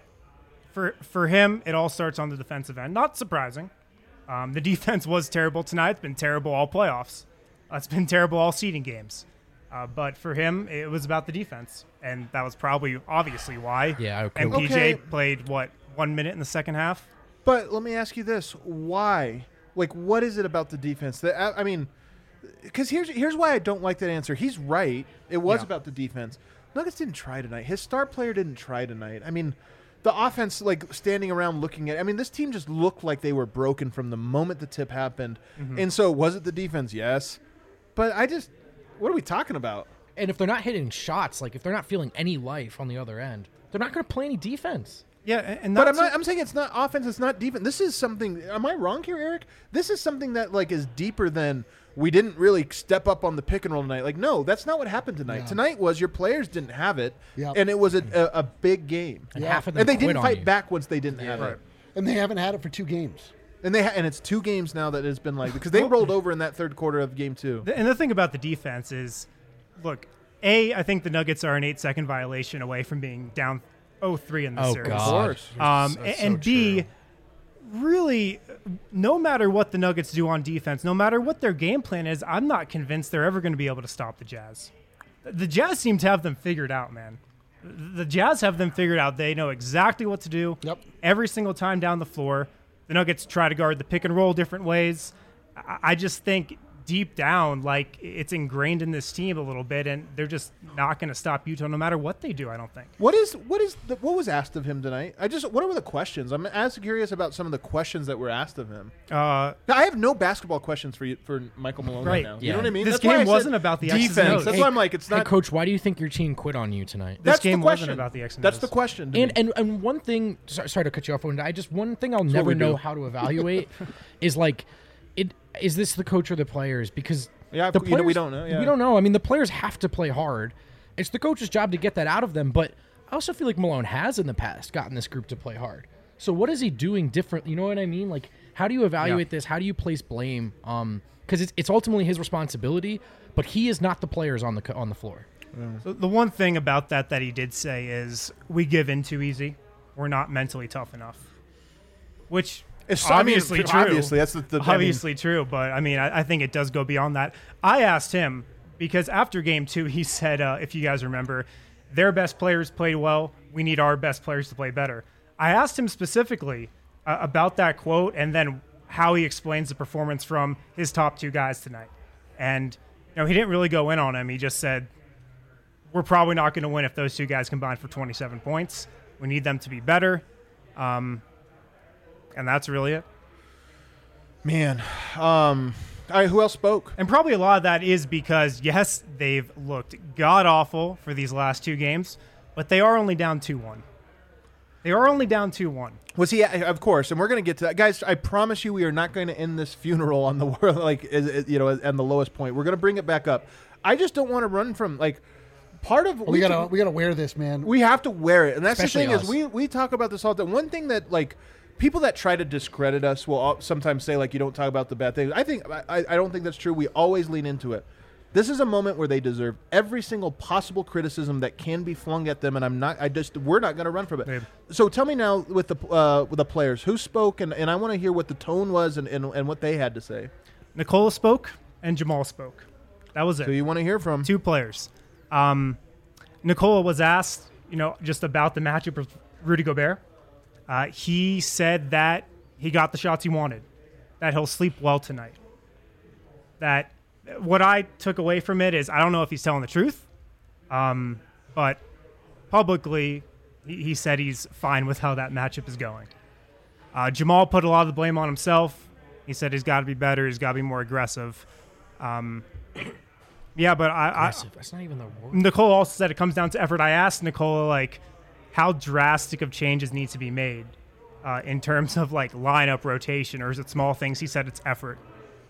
for him, it all starts on the defensive end. Not surprising. The defense was terrible tonight. It's been terrible all playoffs. It's been terrible all seeding games. But for him, it was about the defense, and that was probably obviously why. Yeah, okay. MPJ Okay. played 1 minute in the second half. But let me ask you this: why? Like, what is it about the defense that I mean? Because here's why I don't like that answer. He's right. It was Yeah. about the defense. Nuggets didn't try tonight. His star player didn't try tonight. I mean, the offense, like standing around looking at. I mean, this team just looked like they were broken from the moment the tip happened. And so, was it the defense? Yes. But what are we talking about? and if they're not hitting shots, like if they're not feeling any life on the other end, they're not going to play any defense. Yeah, and But that's I'm saying it's not offense. It's not defense. This is something. Am I wrong here, Eric? This is something that like is deeper than we didn't really step up on the pick and roll tonight. Like, no, that's not what happened tonight. Yeah. Tonight was your players didn't have it, Yep. and it was a big game. And Yeah. half of them And they quit didn't on fight you. back once they didn't have Right. it. And they haven't had it for 2 games. And and it's 2 games now that has been like because they rolled over in that third quarter of game 2. And the thing about the defense is, look, I think the Nuggets are an 8-second violation away from being down 0-3 in the Oh series. God. course. That's And so B, true. really, no matter what the Nuggets do on defense, no matter what their game plan is, I'm not convinced they're ever going to be able to stop the Jazz. The Jazz seem to have them figured out, man. The Jazz have them figured out. They know exactly what to do Yep. every single time down the floor. The Nuggets try to guard the pick and roll different ways. I just think deep down, like, it's ingrained in this team a little bit, and they're just not going to stop Utah no matter what they do, I don't think. What was asked of him tonight? What were the questions? I'm as curious about some of the questions that were asked of him. Now, I have no basketball questions for Michael Malone right Right. now. You Yeah. know what I mean? This That's why game I said wasn't about the X's and defense. O's. That's Hey, why I'm like, it's Hey, not. Coach, why do you think your team quit on you tonight? This That's game the wasn't question. about the X and That's O's. the question. to me. And one thing, sorry to cut you off. One thing I'll what never we know do. how to evaluate is like, is this the coach or the players? Because Yeah, the you know, we players, don't know, yeah. We don't know. I mean, the players have to play hard. It's the coach's job to get that out of them. But I also feel like Malone has in the past gotten this group to play hard. So what is he doing different? You know what I mean? Like, how do you evaluate this? How do you place blame? Because it's ultimately his responsibility, but he is not the players on the floor. So the one thing about that he did say is we give in too easy. We're not mentally tough enough, which It's obviously true. Obviously, that's the Obviously true, but I mean, I think it does go beyond that. I asked him because after game 2, he said, if you guys remember, their best players played well. We need our best players to play better. I asked him specifically about that quote and then how he explains the performance from his top 2 guys tonight. And he didn't really go in on him. He just said, we're probably not going to win if those 2 guys combine for 27 points. We need them to be better. And that's really it. Man. All right, who else spoke? And probably a lot of that is because, yes, they've looked god-awful for these last 2 games, but they are only down 2-1. They are only down 2-1. Was he? Of course, and we're going to get to that, guys. I promise you, we are not going to end this funeral on the world, and the lowest point. We're going to bring it back up. I just don't want to run from part of. We gotta wear this, man. We have to wear it, and that's Especially the thing us. is we talk about this all the time. One thing that people that try to discredit us will sometimes say you don't talk about the bad things. I don't think that's true. We always lean into it. This is a moment where they deserve every single possible criticism that can be flung at them, and we're not going to run from it. Babe. So tell me now with the players who spoke, and I want to hear what the tone was and what they had to say. Nikola spoke and Jamal spoke. That was it. So you want to hear from 2 players. Nikola was asked, just about the matchup with Rudy Gobert. He said that he got the shots he wanted, that he'll sleep well tonight. That what I took away from it is I don't know if he's telling the truth, but publicly he said he's fine with how that matchup is going. Jamal put a lot of the blame on himself. He said he's got to be better. He's got to be more aggressive. Yeah, but Aggressive. That's not even the word. Nicole also said it comes down to effort. I asked Nicola, how drastic of changes need to be made in terms of, lineup rotation, or is it small things? He said it's effort,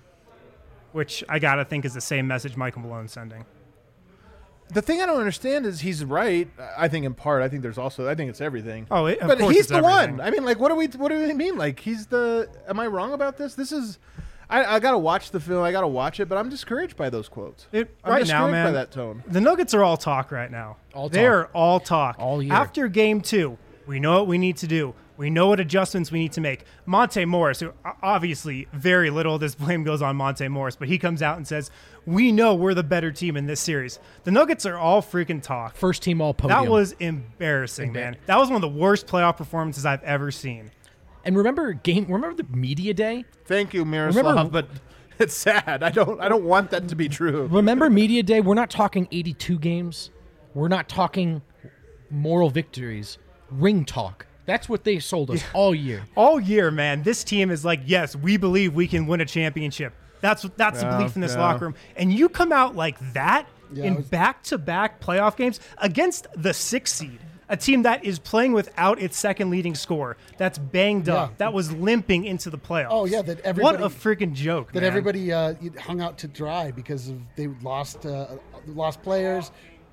which I got to think is the same message Michael Malone's sending. The thing I don't understand is he's right. I think in part. I think it's everything. Oh, of but course he's it's the everything. one. I mean, what do we mean? He's the. Am I wrong about this? This is. I gotta watch the film. I gotta watch it, but I'm discouraged by those quotes. I'm Right now, discouraged by man, that tone. the Nuggets are all talk right now. All They're talk. all talk. All year. After game 2, we know what we need to do. We know what adjustments we need to make. Monte Morris, who obviously very little of this blame goes on Monte Morris, but he comes out and says, we know we're the better team in this series. The Nuggets are all freaking talk. First team all podium. That was embarrassing, man. That was one of the worst playoff performances I've ever seen. And remember the media day? Thank you, Miroslav. Remember- but it's sad. I don't want that to be true. Remember media day? We're not talking 82 games. We're not talking moral victories. Ring talk. That's what they sold us all year. All year, man, this team is yes, we believe we can win a championship. That's the belief in this locker room. And you come out like that in back-to-back playoff games against the 6th seed, a team that is playing without its second leading scorer, that's banged up, that was limping into the playoffs. Oh, yeah, that everybody- What a freaking joke, That man. everybody hung out to dry because they lost players.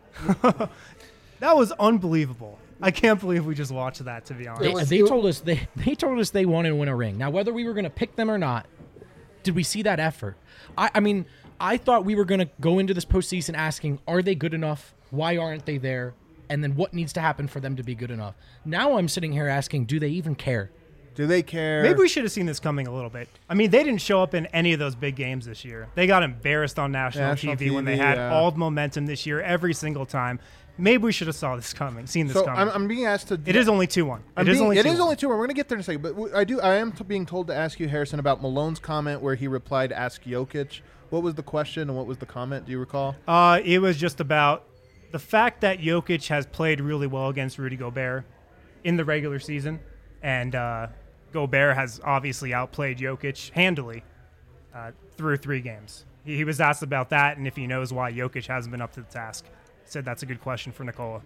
That was unbelievable. I can't believe we just watched that, to be honest. They told us they wanted to win a ring. Now, whether we were going to pick them or not, did we see that effort? I mean, I thought we were going to go into this postseason asking, are they good enough? Why aren't they there? And then what needs to happen for them to be good enough? Now I'm sitting here asking, do they even care? Do they care? Maybe we should have seen this coming a little bit. I mean, they didn't show up in any of those big games this year. They got embarrassed on national TV when they had all the momentum this year every single time. Maybe we should have seen this coming. So I'm being asked to. It is only 2-1. It is only 2-1. We're going to get there in a second. But I am being told to ask you, Harrison, about Malone's comment where he replied, "Ask Jokic." What was the question and what was the comment? Do you recall? It was just about the fact that Jokic has played really well against Rudy Gobert in the regular season, and Gobert has obviously outplayed Jokic handily through 3 games. He was asked about that and if he knows why Jokic hasn't been up to the task. He said that's a good question for Nikola.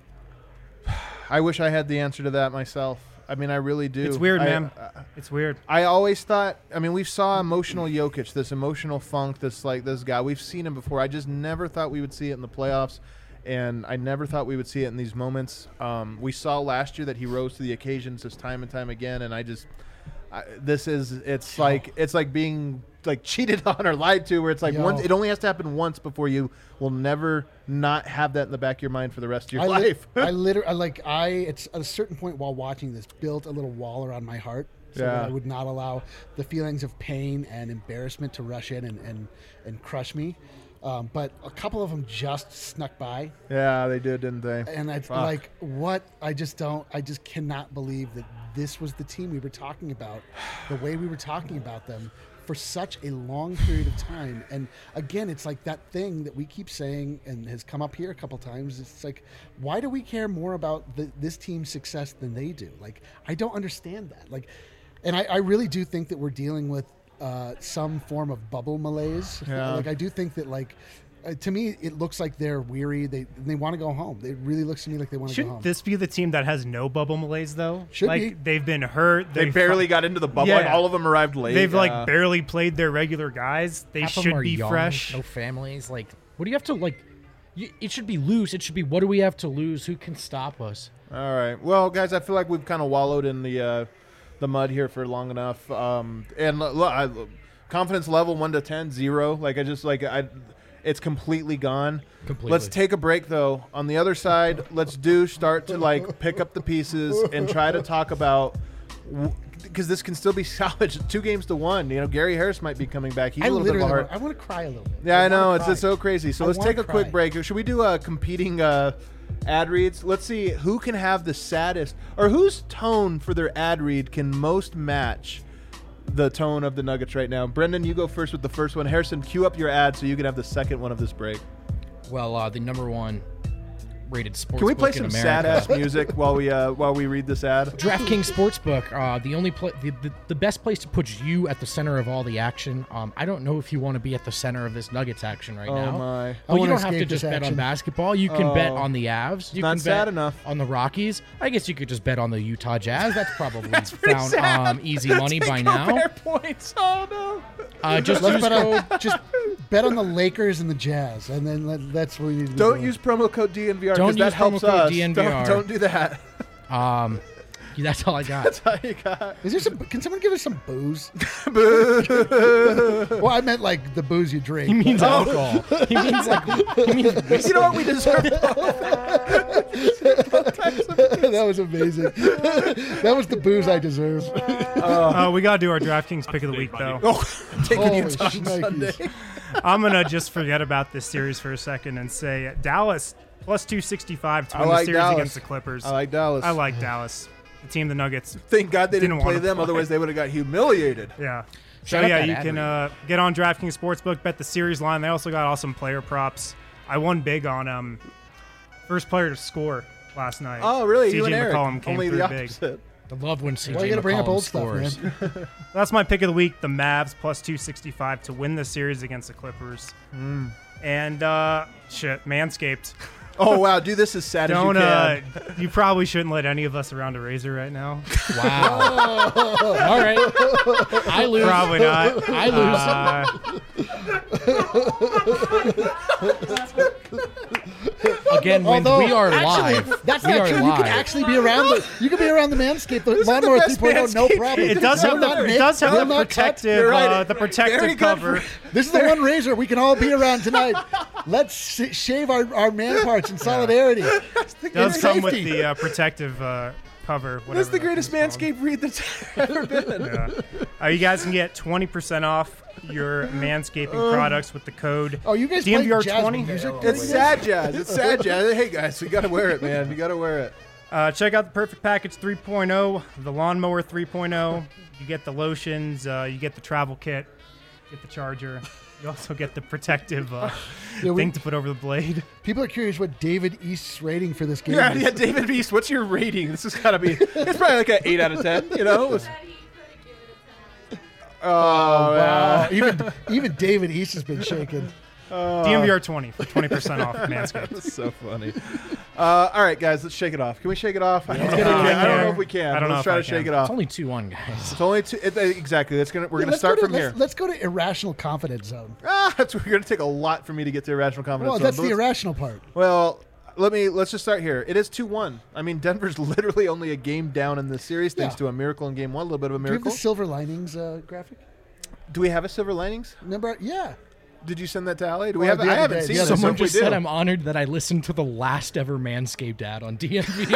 I wish I had the answer to that myself. I mean, I really do. It's weird, man. It's weird. I always thought, I mean, we saw emotional Jokic, this emotional funk, this guy. We've seen him before. I just never thought we would see it in the playoffs, and I never thought we would see it in these moments. We saw last year that he rose to the occasions just time and time again, and it's like being cheated on or lied to, where it's once, it only has to happen once before you will never not have that in the back of your mind for the rest of your life. It's at a certain point while watching this built a little wall around my heart so that I would not allow the feelings of pain and embarrassment to rush in and crush me. But a couple of them just snuck by. Yeah, they did, didn't they? And I just cannot believe that this was the team we were talking about, the way we were talking about them for such a long period of time. And again, it's like that thing that we keep saying and has come up here a couple times. It's like, why do we care more about this team's success than they do? I don't understand that. And I really do think that we're dealing with some form of bubble malaise. Yeah. I do think that to me, it looks like they're weary. They want to go home. It really looks to me like they want to go home. Shouldn't this be the team that has no bubble malaise, though? Should be. They've been hurt. They barely got into the bubble. Yeah. All of them arrived late. They've barely played their regular guys. They Half of them should are be young, fresh. no families. What do you have to it should be loose. It should be, what do we have to lose? Who can stop us? All right. Well, guys, I feel like we've kind of wallowed in the mud here for long enough. And look, confidence level 1 to 10, 0. It's completely gone. Completely. Let's take a break, though. On the other side, let's start to like pick up the pieces and try to talk about because this can still be salvaged 2-1. You know, Gary Harris might be coming back. He's a little bit of a heart. I want to cry a little bit. Yeah, I know. wanna It's so crazy. So I let's wanna take a quick cry. break. Should we do a competing ad reads? Let's see who can have the saddest or whose tone for their ad read can most match the tone of the Nuggets right now. Brendan, you go first with the first one. Harrison, cue up your ad so you can have the second one of this break. Well, the number one rated sports. Can we play book in some America. sad ass music while we read this ad? DraftKings Sportsbook, the only the best place to put you at the center of all the action. I don't know if you want to be at the center of this Nuggets action right now. Oh my! I But you wanna don't have to escape just this bet on action. basketball. You can bet on the Avs. You not can sad bet enough. on the Rockies. I guess you could just bet on the Utah Jazz. That's probably pretty found sad. easy money by now. Fair points. Oh no! Just Let's use bet code. on, just bet on the Lakers and the Jazz, and then that's what we need to Don't do. use promo code DNVR Don't because that use helps promo code us. DNVR. Don't do that. That's all I got. That's all you got. Is there some? Can someone give us some booze? Boo. Well, I meant like the booze you drink. He means alcohol. He means You know what? We deserve That was amazing. That was the booze I deserve. We got to do our DraftKings pick of the week, though. taking Holy Utah on shnikes. Sunday. I'm going to just forget about this series for a second and say Dallas plus 265 to I win like the series Dallas. against the Clippers. I like Dallas. I like Dallas. The team, the Nuggets. Thank God they didn't Didn't play wanna them, play. otherwise they would have got humiliated. Yeah. Shut So, up yeah, that you ad can get on DraftKings Sportsbook, bet the series line. They also got awesome player props. I won big on first player to score last night. Oh, really? CJ You and Eric. McCollum came Only through the big. opposite. I love when CJ Why you gotta bring up McCollum old stuff, scores. man? That's my pick of the week. The Mavs plus 265 to win the series against the Clippers. And shit, Manscaped. Oh, wow. Do this as sad Don't as you can. you probably shouldn't let any of us around a razor right now. Wow. All right. I lose. Probably not. I lose. Again, when Although, we are actually, live. that's we not are true. You live. can actually be around the. You can be around the Manscaped, the is the Lawnmower best 3.0, no Manscaped. problem. It does have Will not the nick, will not cut. protective You're right. the Very protective good cover. This is the one razor we can all be around tonight. Let's shave our man parts in solidarity. Does come with Safety. the protective cover. That's the whatever greatest that thing's called. Manscaped read that's ever been. Yeah. You guys can get 20% off your manscaping products with the code Oh, you guys play jazz DNVR20. music? It's sad jazz. It's sad jazz. Hey, guys, you got to wear it, man. You got to wear it. Check out the Perfect Package 3.0, the Lawnmower 3.0. You get the lotions, you get the travel kit, you get the charger. You also get the protective thing to put over the blade. People are curious what David East's rating for this game Yeah, is. yeah, David Beast, what's your rating? This has got to be, it's probably like an 8 out of 10, you know? Oh, Wow. Even David East has been shaken. DNVR20 for 20% off Manscaped. That's so funny. All right, guys, let's shake it off. Can we shake it off? I don't know, I don't know if we can. I don't know Let's if try I to shake can. it off. It's only 2-1, guys. It's only two. Exactly. We're gonna Let's start go from here. Let's go to irrational confidence zone. That's we're gonna take a lot for me to get to irrational confidence. Well, zone, that's but the let's- irrational part. Well, let's just start here. It is 2-1. I mean, Denver's literally only a game down in this series, thanks Yeah. to a miracle in game one, a little bit of a Do you have miracle. the silver linings graphic? Do we have a silver linings? Remember? Yeah. Did you send that to Ali? Do we Well, have? the I other haven't day, seen the it. other so Someone if we just do- said I'm honored that I listened to the last ever Manscaped ad on DMV.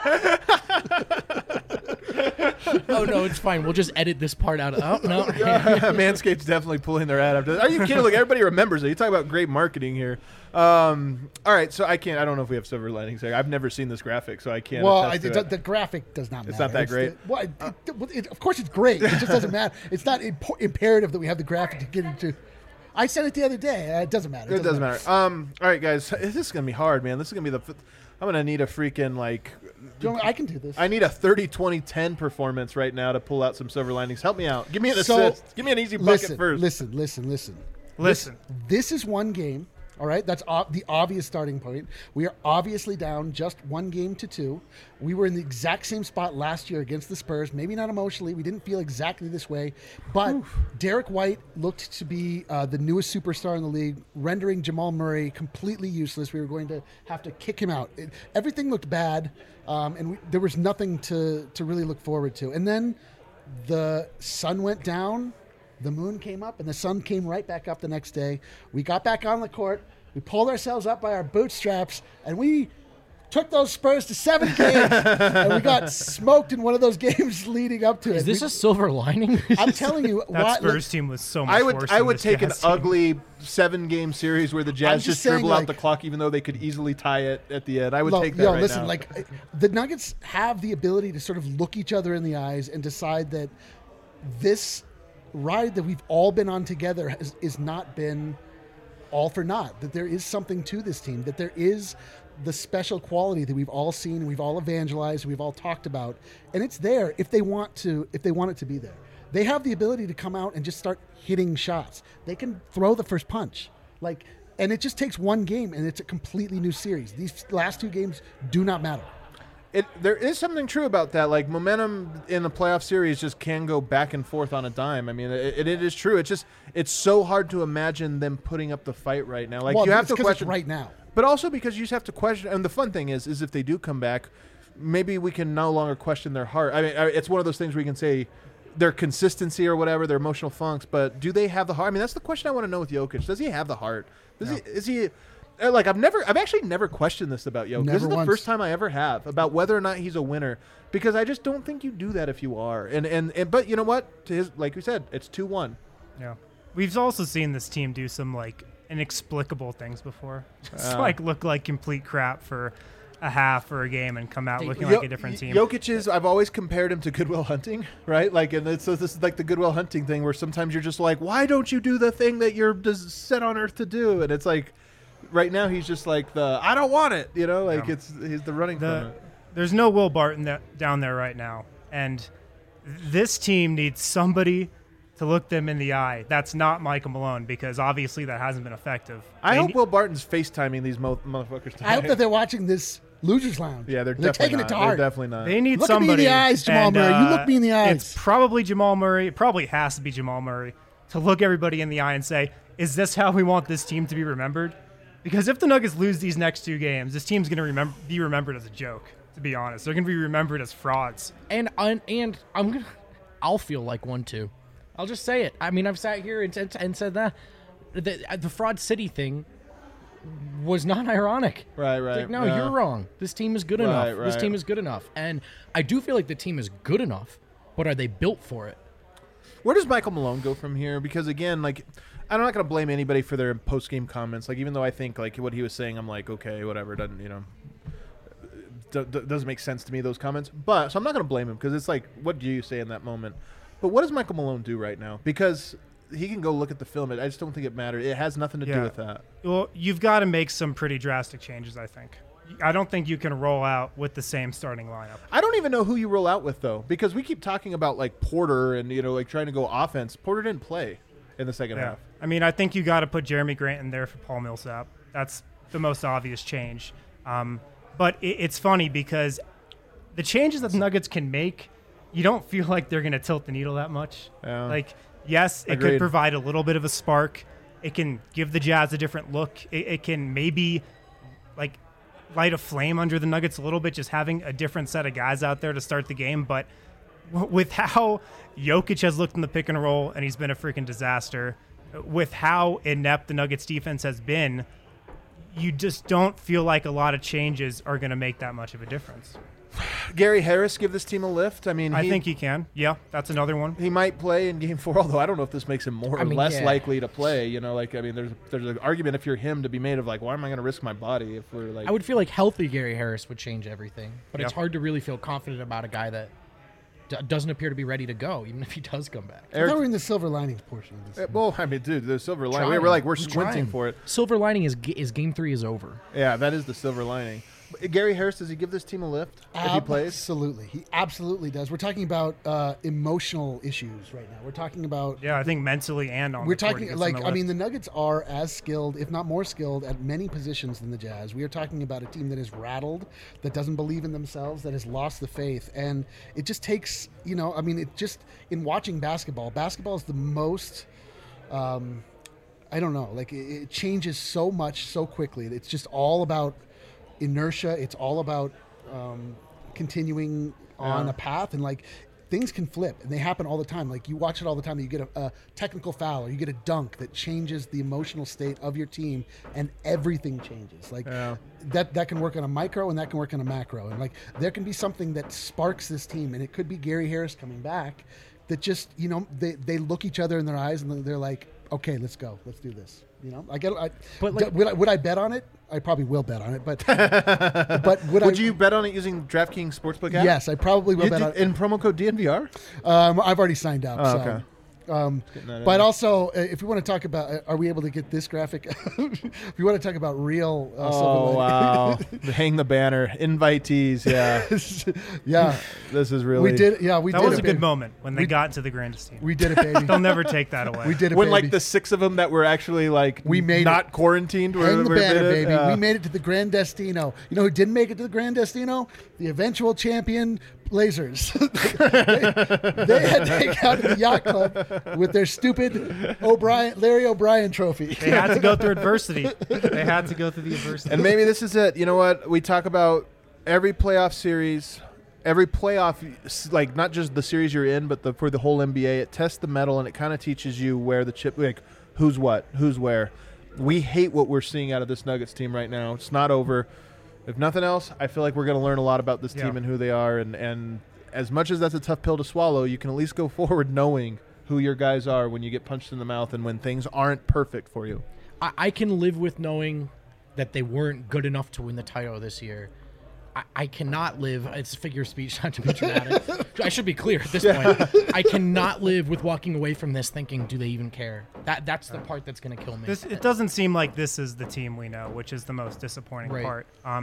Oh, no, it's fine. We'll just edit this part out. Oh, no. Manscaped's definitely pulling their ad after. Are you kidding? Look, everybody remembers it. You talk about great marketing here. All right, so I don't know if we have silver linings here. I've never seen this graphic, so I can't. Well, attest to it. the graphic does not matter. It's not that great? Of course, it's great. It just doesn't matter. It's not imperative that we have the graphic to get into. I said it the other day. It doesn't matter. It doesn't matter. All right, guys, this is gonna be hard, man. This is gonna be I'm gonna need a freaking I can do this. I need a 30-20-10 performance right now to pull out some silver linings. Help me out. Give me an So, assist. Give me an easy bucket first. Listen. This is one game. All right, that's the obvious starting point. We are obviously down just 1-2. We were in the exact same spot last year against the Spurs. Maybe not emotionally. We didn't feel exactly this way. But Derek White looked to be the newest superstar in the league, rendering Jamal Murray completely useless. We were going to have to kick him out. Everything looked bad, and there was nothing to really look forward to. And then the sun went down, the moon came up and the sun came right back up the next day. We got back on the court. We pulled ourselves up by our bootstraps, and we took those Spurs to 7 games, and we got smoked in one of those games leading up to it. Is this a silver lining? I'm telling you, That Spurs team was so much worse. I than would this take an Jazz team. ugly 7-game series where the Jazz just just dribble saying, out like- the clock, even though they could easily tie it at the end. I would take that right listen, now. like the Nuggets have the ability to sort of look each other in the eyes and decide that this ride that we've all been on together is not been all for naught. That there is something to this team. That there is the special quality that we've all seen, we've all evangelized, we've all talked about, and it's there if they want it to be there. They have the ability to come out and just start hitting shots. They can throw the first punch, and it just takes one game, and it's a completely new series. These last 2 games do not matter. There is something true about that. Like, momentum in the playoff series just can go back and forth on a dime. I mean, it is true. It's so hard to imagine them putting up the fight right now. Like, Well, you have it's to 'cause question it's right now. but also because you just have to question. And the fun thing is if they do come back, maybe we can no longer question their heart. I mean, it's one of those things where you can say their consistency or whatever, their emotional funks, but do they have the heart? I mean, that's the question I want to know with Jokic. Does he have the heart? Is he like, I've actually never questioned this about Jokic. This is Never the once. first time I ever have about whether or not he's a winner, because I just don't think you do that if you are. And but you know what? To his, like we said, it's 2-1. Yeah. We've also seen this team do some like inexplicable things before. Just like look like complete crap for a half or a game and come out looking like a different team. Jokic is, I've always compared him to Goodwill Hunting, right? Like, and so this is like the Goodwill Hunting thing where sometimes you're just like, why don't you do the thing that you're just set on earth to do? And it's like, right now he's just like I don't want it, you know, like he's the running from it. There's no Will Barton down there right now, and this team needs somebody to look them in the eye. That's not Michael Malone, because obviously that hasn't been effective. I hope Will Barton's FaceTiming these motherfuckers tonight. I hope that they're watching this Losers Lounge. Yeah, they're taking definitely it to not. heart. They're definitely not. They need Look at me in somebody. the eyes, Jamal and, Murray. You look me in the eyes. It's probably Jamal Murray. It probably has to be Jamal Murray to look everybody in the eye and say, is this how we want this team to be remembered? Because if the Nuggets lose these next 2 games, this team's going to be remembered as a joke, to be honest. They're going to be remembered as frauds. And I'll feel like one too. I'll just say it. I mean, I've sat here and said that the Fraud City thing was not ironic. Right. It's like, no, yeah. you're wrong. This team is good Right, enough. This right. team is good enough. And I do feel like the team is good enough, but are they built for it? Where does Michael Malone go from here? Because again, like, I'm not going to blame anybody for their post-game comments. Like, even though I think like what he was saying, I'm like, okay, whatever. Doesn't doesn't make sense to me, those comments. But so I'm not going to blame him, because it's like, what do you say in that moment? But what does Michael Malone do right now? Because he can go look at the film. I just don't think it matters. It has nothing to do with that. Well, you've got to make some pretty drastic changes, I think. I don't think you can roll out with the same starting lineup. I don't even know who you roll out with, though, because we keep talking about like Porter and like trying to go offense. Porter didn't play in the second half. I mean, I think you got to put Jeremy Grant in there for Paul Millsap. That's the most obvious change. But it's funny because the changes that the Nuggets can make, you don't feel like they're going to tilt the needle that much. Yeah. Like, yes, it Agreed. could provide a little bit of a spark. It can give the Jazz a different look. It can maybe like light a flame under the Nuggets a little bit, just having a different set of guys out there to start the game. But with how Jokic has looked in the pick and roll, and he's been a freaking disaster, with how inept the Nuggets defense has been, you just don't feel like a lot of changes are going to make that much of a difference. Gary Harris give this team a lift? I mean, I think he can. Yeah, that's another one. he might play in Game 4, although I don't know if this makes him more or less likely to play. You know, like, I mean, there's an argument if you're him to be made of like, why am I going to risk my body if we're like? I would feel like healthy Gary Harris would change everything, but it's Yep. hard to really feel confident about a guy that doesn't appear to be ready to go, even if he does come back. I thought we were in the silver linings portion of this. Well, I mean, dude, the silver lining. Trying. We're I'm squinting trying. for it. Silver lining is Game 3 is over. Yeah, that is the silver lining. But Gary Harris, does he give this team a lift if he plays? Absolutely. He absolutely does. We're talking about emotional issues right now. We're talking about Yeah, I think mentally and on We're the court, talking he gets like on the I mean list. the Nuggets are as skilled, if not more skilled, at many positions than the Jazz. We are talking about a team that is rattled, that doesn't believe in themselves, that has lost the faith, and it just takes I mean it just in watching basketball is the most. I don't know, like it changes so much so quickly. It's just all about inertia. It's all about continuing on a path, and like things can flip, and they happen all the time. Like you watch it all the time. You get a technical foul, or you get a dunk that changes the emotional state of your team, and everything changes. Like that can work on a micro, and that can work on a macro. And like there can be something that sparks this team, and it could be Gary Harris coming back. That just they look each other in their eyes, and they're like, okay, let's go, let's do this. Would I bet on it? I probably will bet on it, but would you bet on it using DraftKings Sportsbook app? Yes, I probably will bet on it. In promo code DNVR? I've already signed up. Oh, so. okay. But also, if we want to talk about, are we able to get this graphic? If you want to talk about real, wow! Hang the banner, invitees. Yeah, yeah. This is really. We did. Yeah, we that did. That was a good moment when they got into the Grandestino. We did it, baby. They'll never take that away. We did it, when baby. like the 6 of them that were actually like we made not it. Quarantined. Hang the banner, baby. We made it to the Grandestino. You know who didn't make it to the Grandestino? The eventual champion Blazers. They had to take out the yacht club with their stupid Larry O'Brien trophy. They had to go through adversity. They had to go through the adversity. And maybe this is it. You know what? We talk about every playoff series, every playoff, like not just the series you're in, but for the whole NBA. It tests the metal, and it kind of teaches you where the chip, like who's what, who's where. We hate what we're seeing out of this Nuggets team right now. It's not over. If nothing else, I feel like we're going to learn a lot about this team and who they are. And as much as that's a tough pill to swallow, you can at least go forward knowing who your guys are when you get punched in the mouth and when things aren't perfect for you. I can live with knowing that they weren't good enough to win the title this year. I cannot live, it's a figure of speech, not to be dramatic. I should be clear at this point. I cannot live with walking away from this thinking, do they even care? That's the part that's going to kill me. It doesn't seem like this is the team we know, which is the most disappointing part.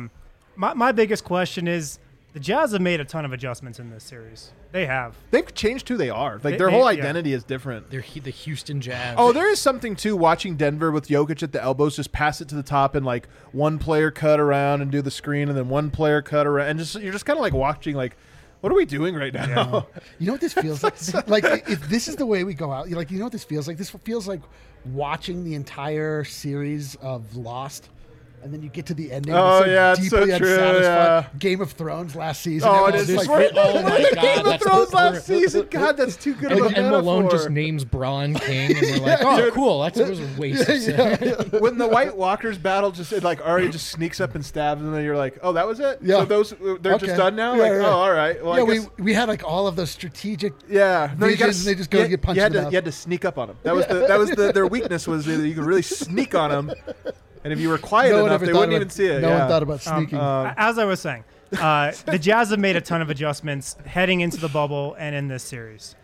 My biggest question is, the Jazz have made a ton of adjustments in this series. They have. They've changed who they are. Like their whole identity is different. They're the Houston Jazz. Oh, there is something too watching Denver with Jokic at the elbows, just pass it to the top and like one player cut around and do the screen, and then one player cut around, and you're just kind of like watching like, what are we doing right now? Yeah. You know what this feels like? Like if this is the way we go out, you know what this feels like? This feels like watching the entire series of Lost. And then you get to the ending. Oh, it's yeah, it's deeply so true, unsatisfied. yeah. Game of Thrones last season. Oh, it is. Like, oh my God, Game of Thrones last season. God, that's too good of a And Malone metaphor. just names Braun King, and we're like, oh, cool. That was a waste of When the White Walkers battle, like Arya just sneaks up and stabs them, and you're like, oh, that was it? Yeah. So they're just done now? Yeah, like, yeah. oh, all right. Well, yeah, I guess, we had like all of those strategic yeah. No, you visions, and they just go and get punched in the mouth. You had to sneak up on them. That was their weakness was that you could really sneak on them. And if you were quiet enough, they wouldn't even see it. No one thought about sneaking. As I was saying, the Jazz have made a ton of adjustments heading into the bubble and in this series.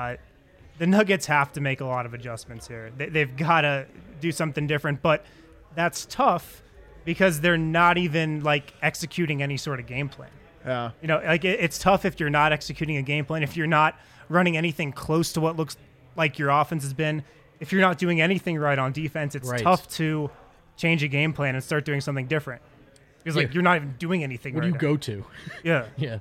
The Nuggets have to make a lot of adjustments here. They've got to do something different, but that's tough because they're not even like executing any sort of game plan. Yeah. You know, like it's tough if you're not executing a game plan, if you're not running anything close to what looks like your offense has been, if you're not doing anything right on defense, it's tough to change a game plan and start doing something different. Because like you're not even doing anything. What do you go to? Yeah. Yeah.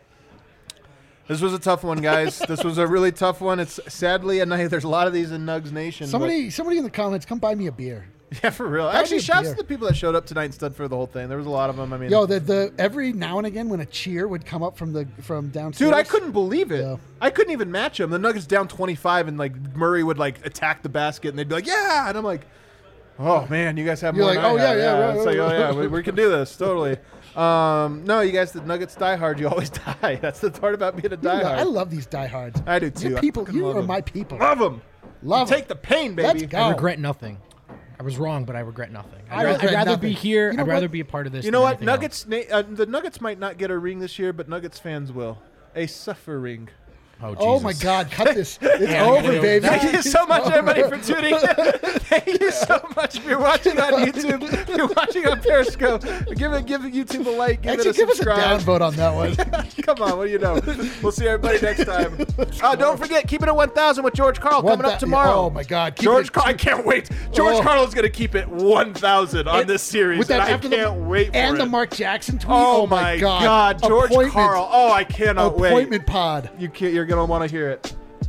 This was a tough one, guys. This was a really tough one. It's sadly, and there's a lot of these in Nugs Nation. Somebody in the comments, come buy me a beer. Yeah, for real. Actually, shouts to the people that showed up tonight and stood for the whole thing. There was a lot of them. I mean, the every now and again when a cheer would come up from downstairs. Dude, I couldn't believe it. Yeah. I couldn't even match them. The Nuggets down 25, and like Murray would like attack the basket, and they'd be like, "Yeah," and I'm like, "Oh man, you guys have more." You're like, than I "Oh, have." yeah, right, It's like, right, "Oh yeah, we can do this totally." No, you guys, the Nuggets die hard. You always die. That's the part about being a diehard. I love these diehards. I do too. You I people, fucking you love are them. my people. Love them. Love Take the pain, baby. Let's go. I regret nothing. I was wrong, but I regret nothing. I I'd regret rather nothing. be here. You know I'd rather what? be a part of this. You know than what? anything Nuggets. The Nuggets might not get a ring this year, but Nuggets fans will. A suffering. else. Oh, Oh Jesus. my God! Cut this. It's over, baby. Thank you so much, everybody, for tuning in. Thank you so much if you're watching on YouTube. If you're watching on Periscope, give YouTube a like. Give Actually, it a give us a subscribe. downvote on that one. Come on, what do you know? We'll see everybody next time. Don't forget, keep it at 1,000 with George Carl coming up tomorrow. Oh my God! Keep George it- Carl, I can't wait. George Oh. Carl's going to keep it 1,000 on this series, With that and I after the- can't wait for and it. the Mark Jackson tweet. Oh my God, George Appointment- Carl. Oh, I cannot wait. Appointment pod. You're going to want to hear it.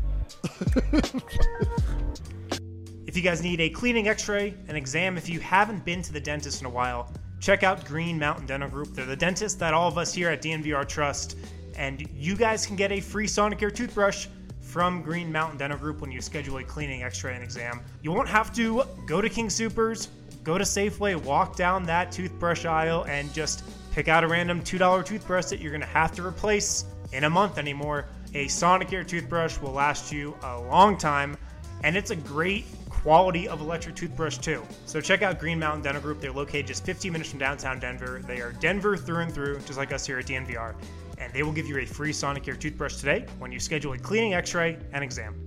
If you guys need a cleaning x-ray, an exam, if you haven't been to the dentist in a while, check out Green Mountain Dental Group. They're the dentist that all of us here at DNVR trust. And you guys can get a free Sonicare toothbrush from Green Mountain Dental Group when you schedule a cleaning, x-ray, and exam. You won't have to go to King Soopers, go to Safeway, walk down that toothbrush aisle, and just pick out a random $2 toothbrush that you're going to have to replace in a month anymore. A Sonicare toothbrush will last you a long time, and it's a great quality of electric toothbrush too. So check out Green Mountain Dental Group. They're located just 15 minutes from downtown Denver. They are Denver through and through, just like us here at DNVR. And they will give you a free Sonicare toothbrush today when you schedule a cleaning, x-ray, and exam.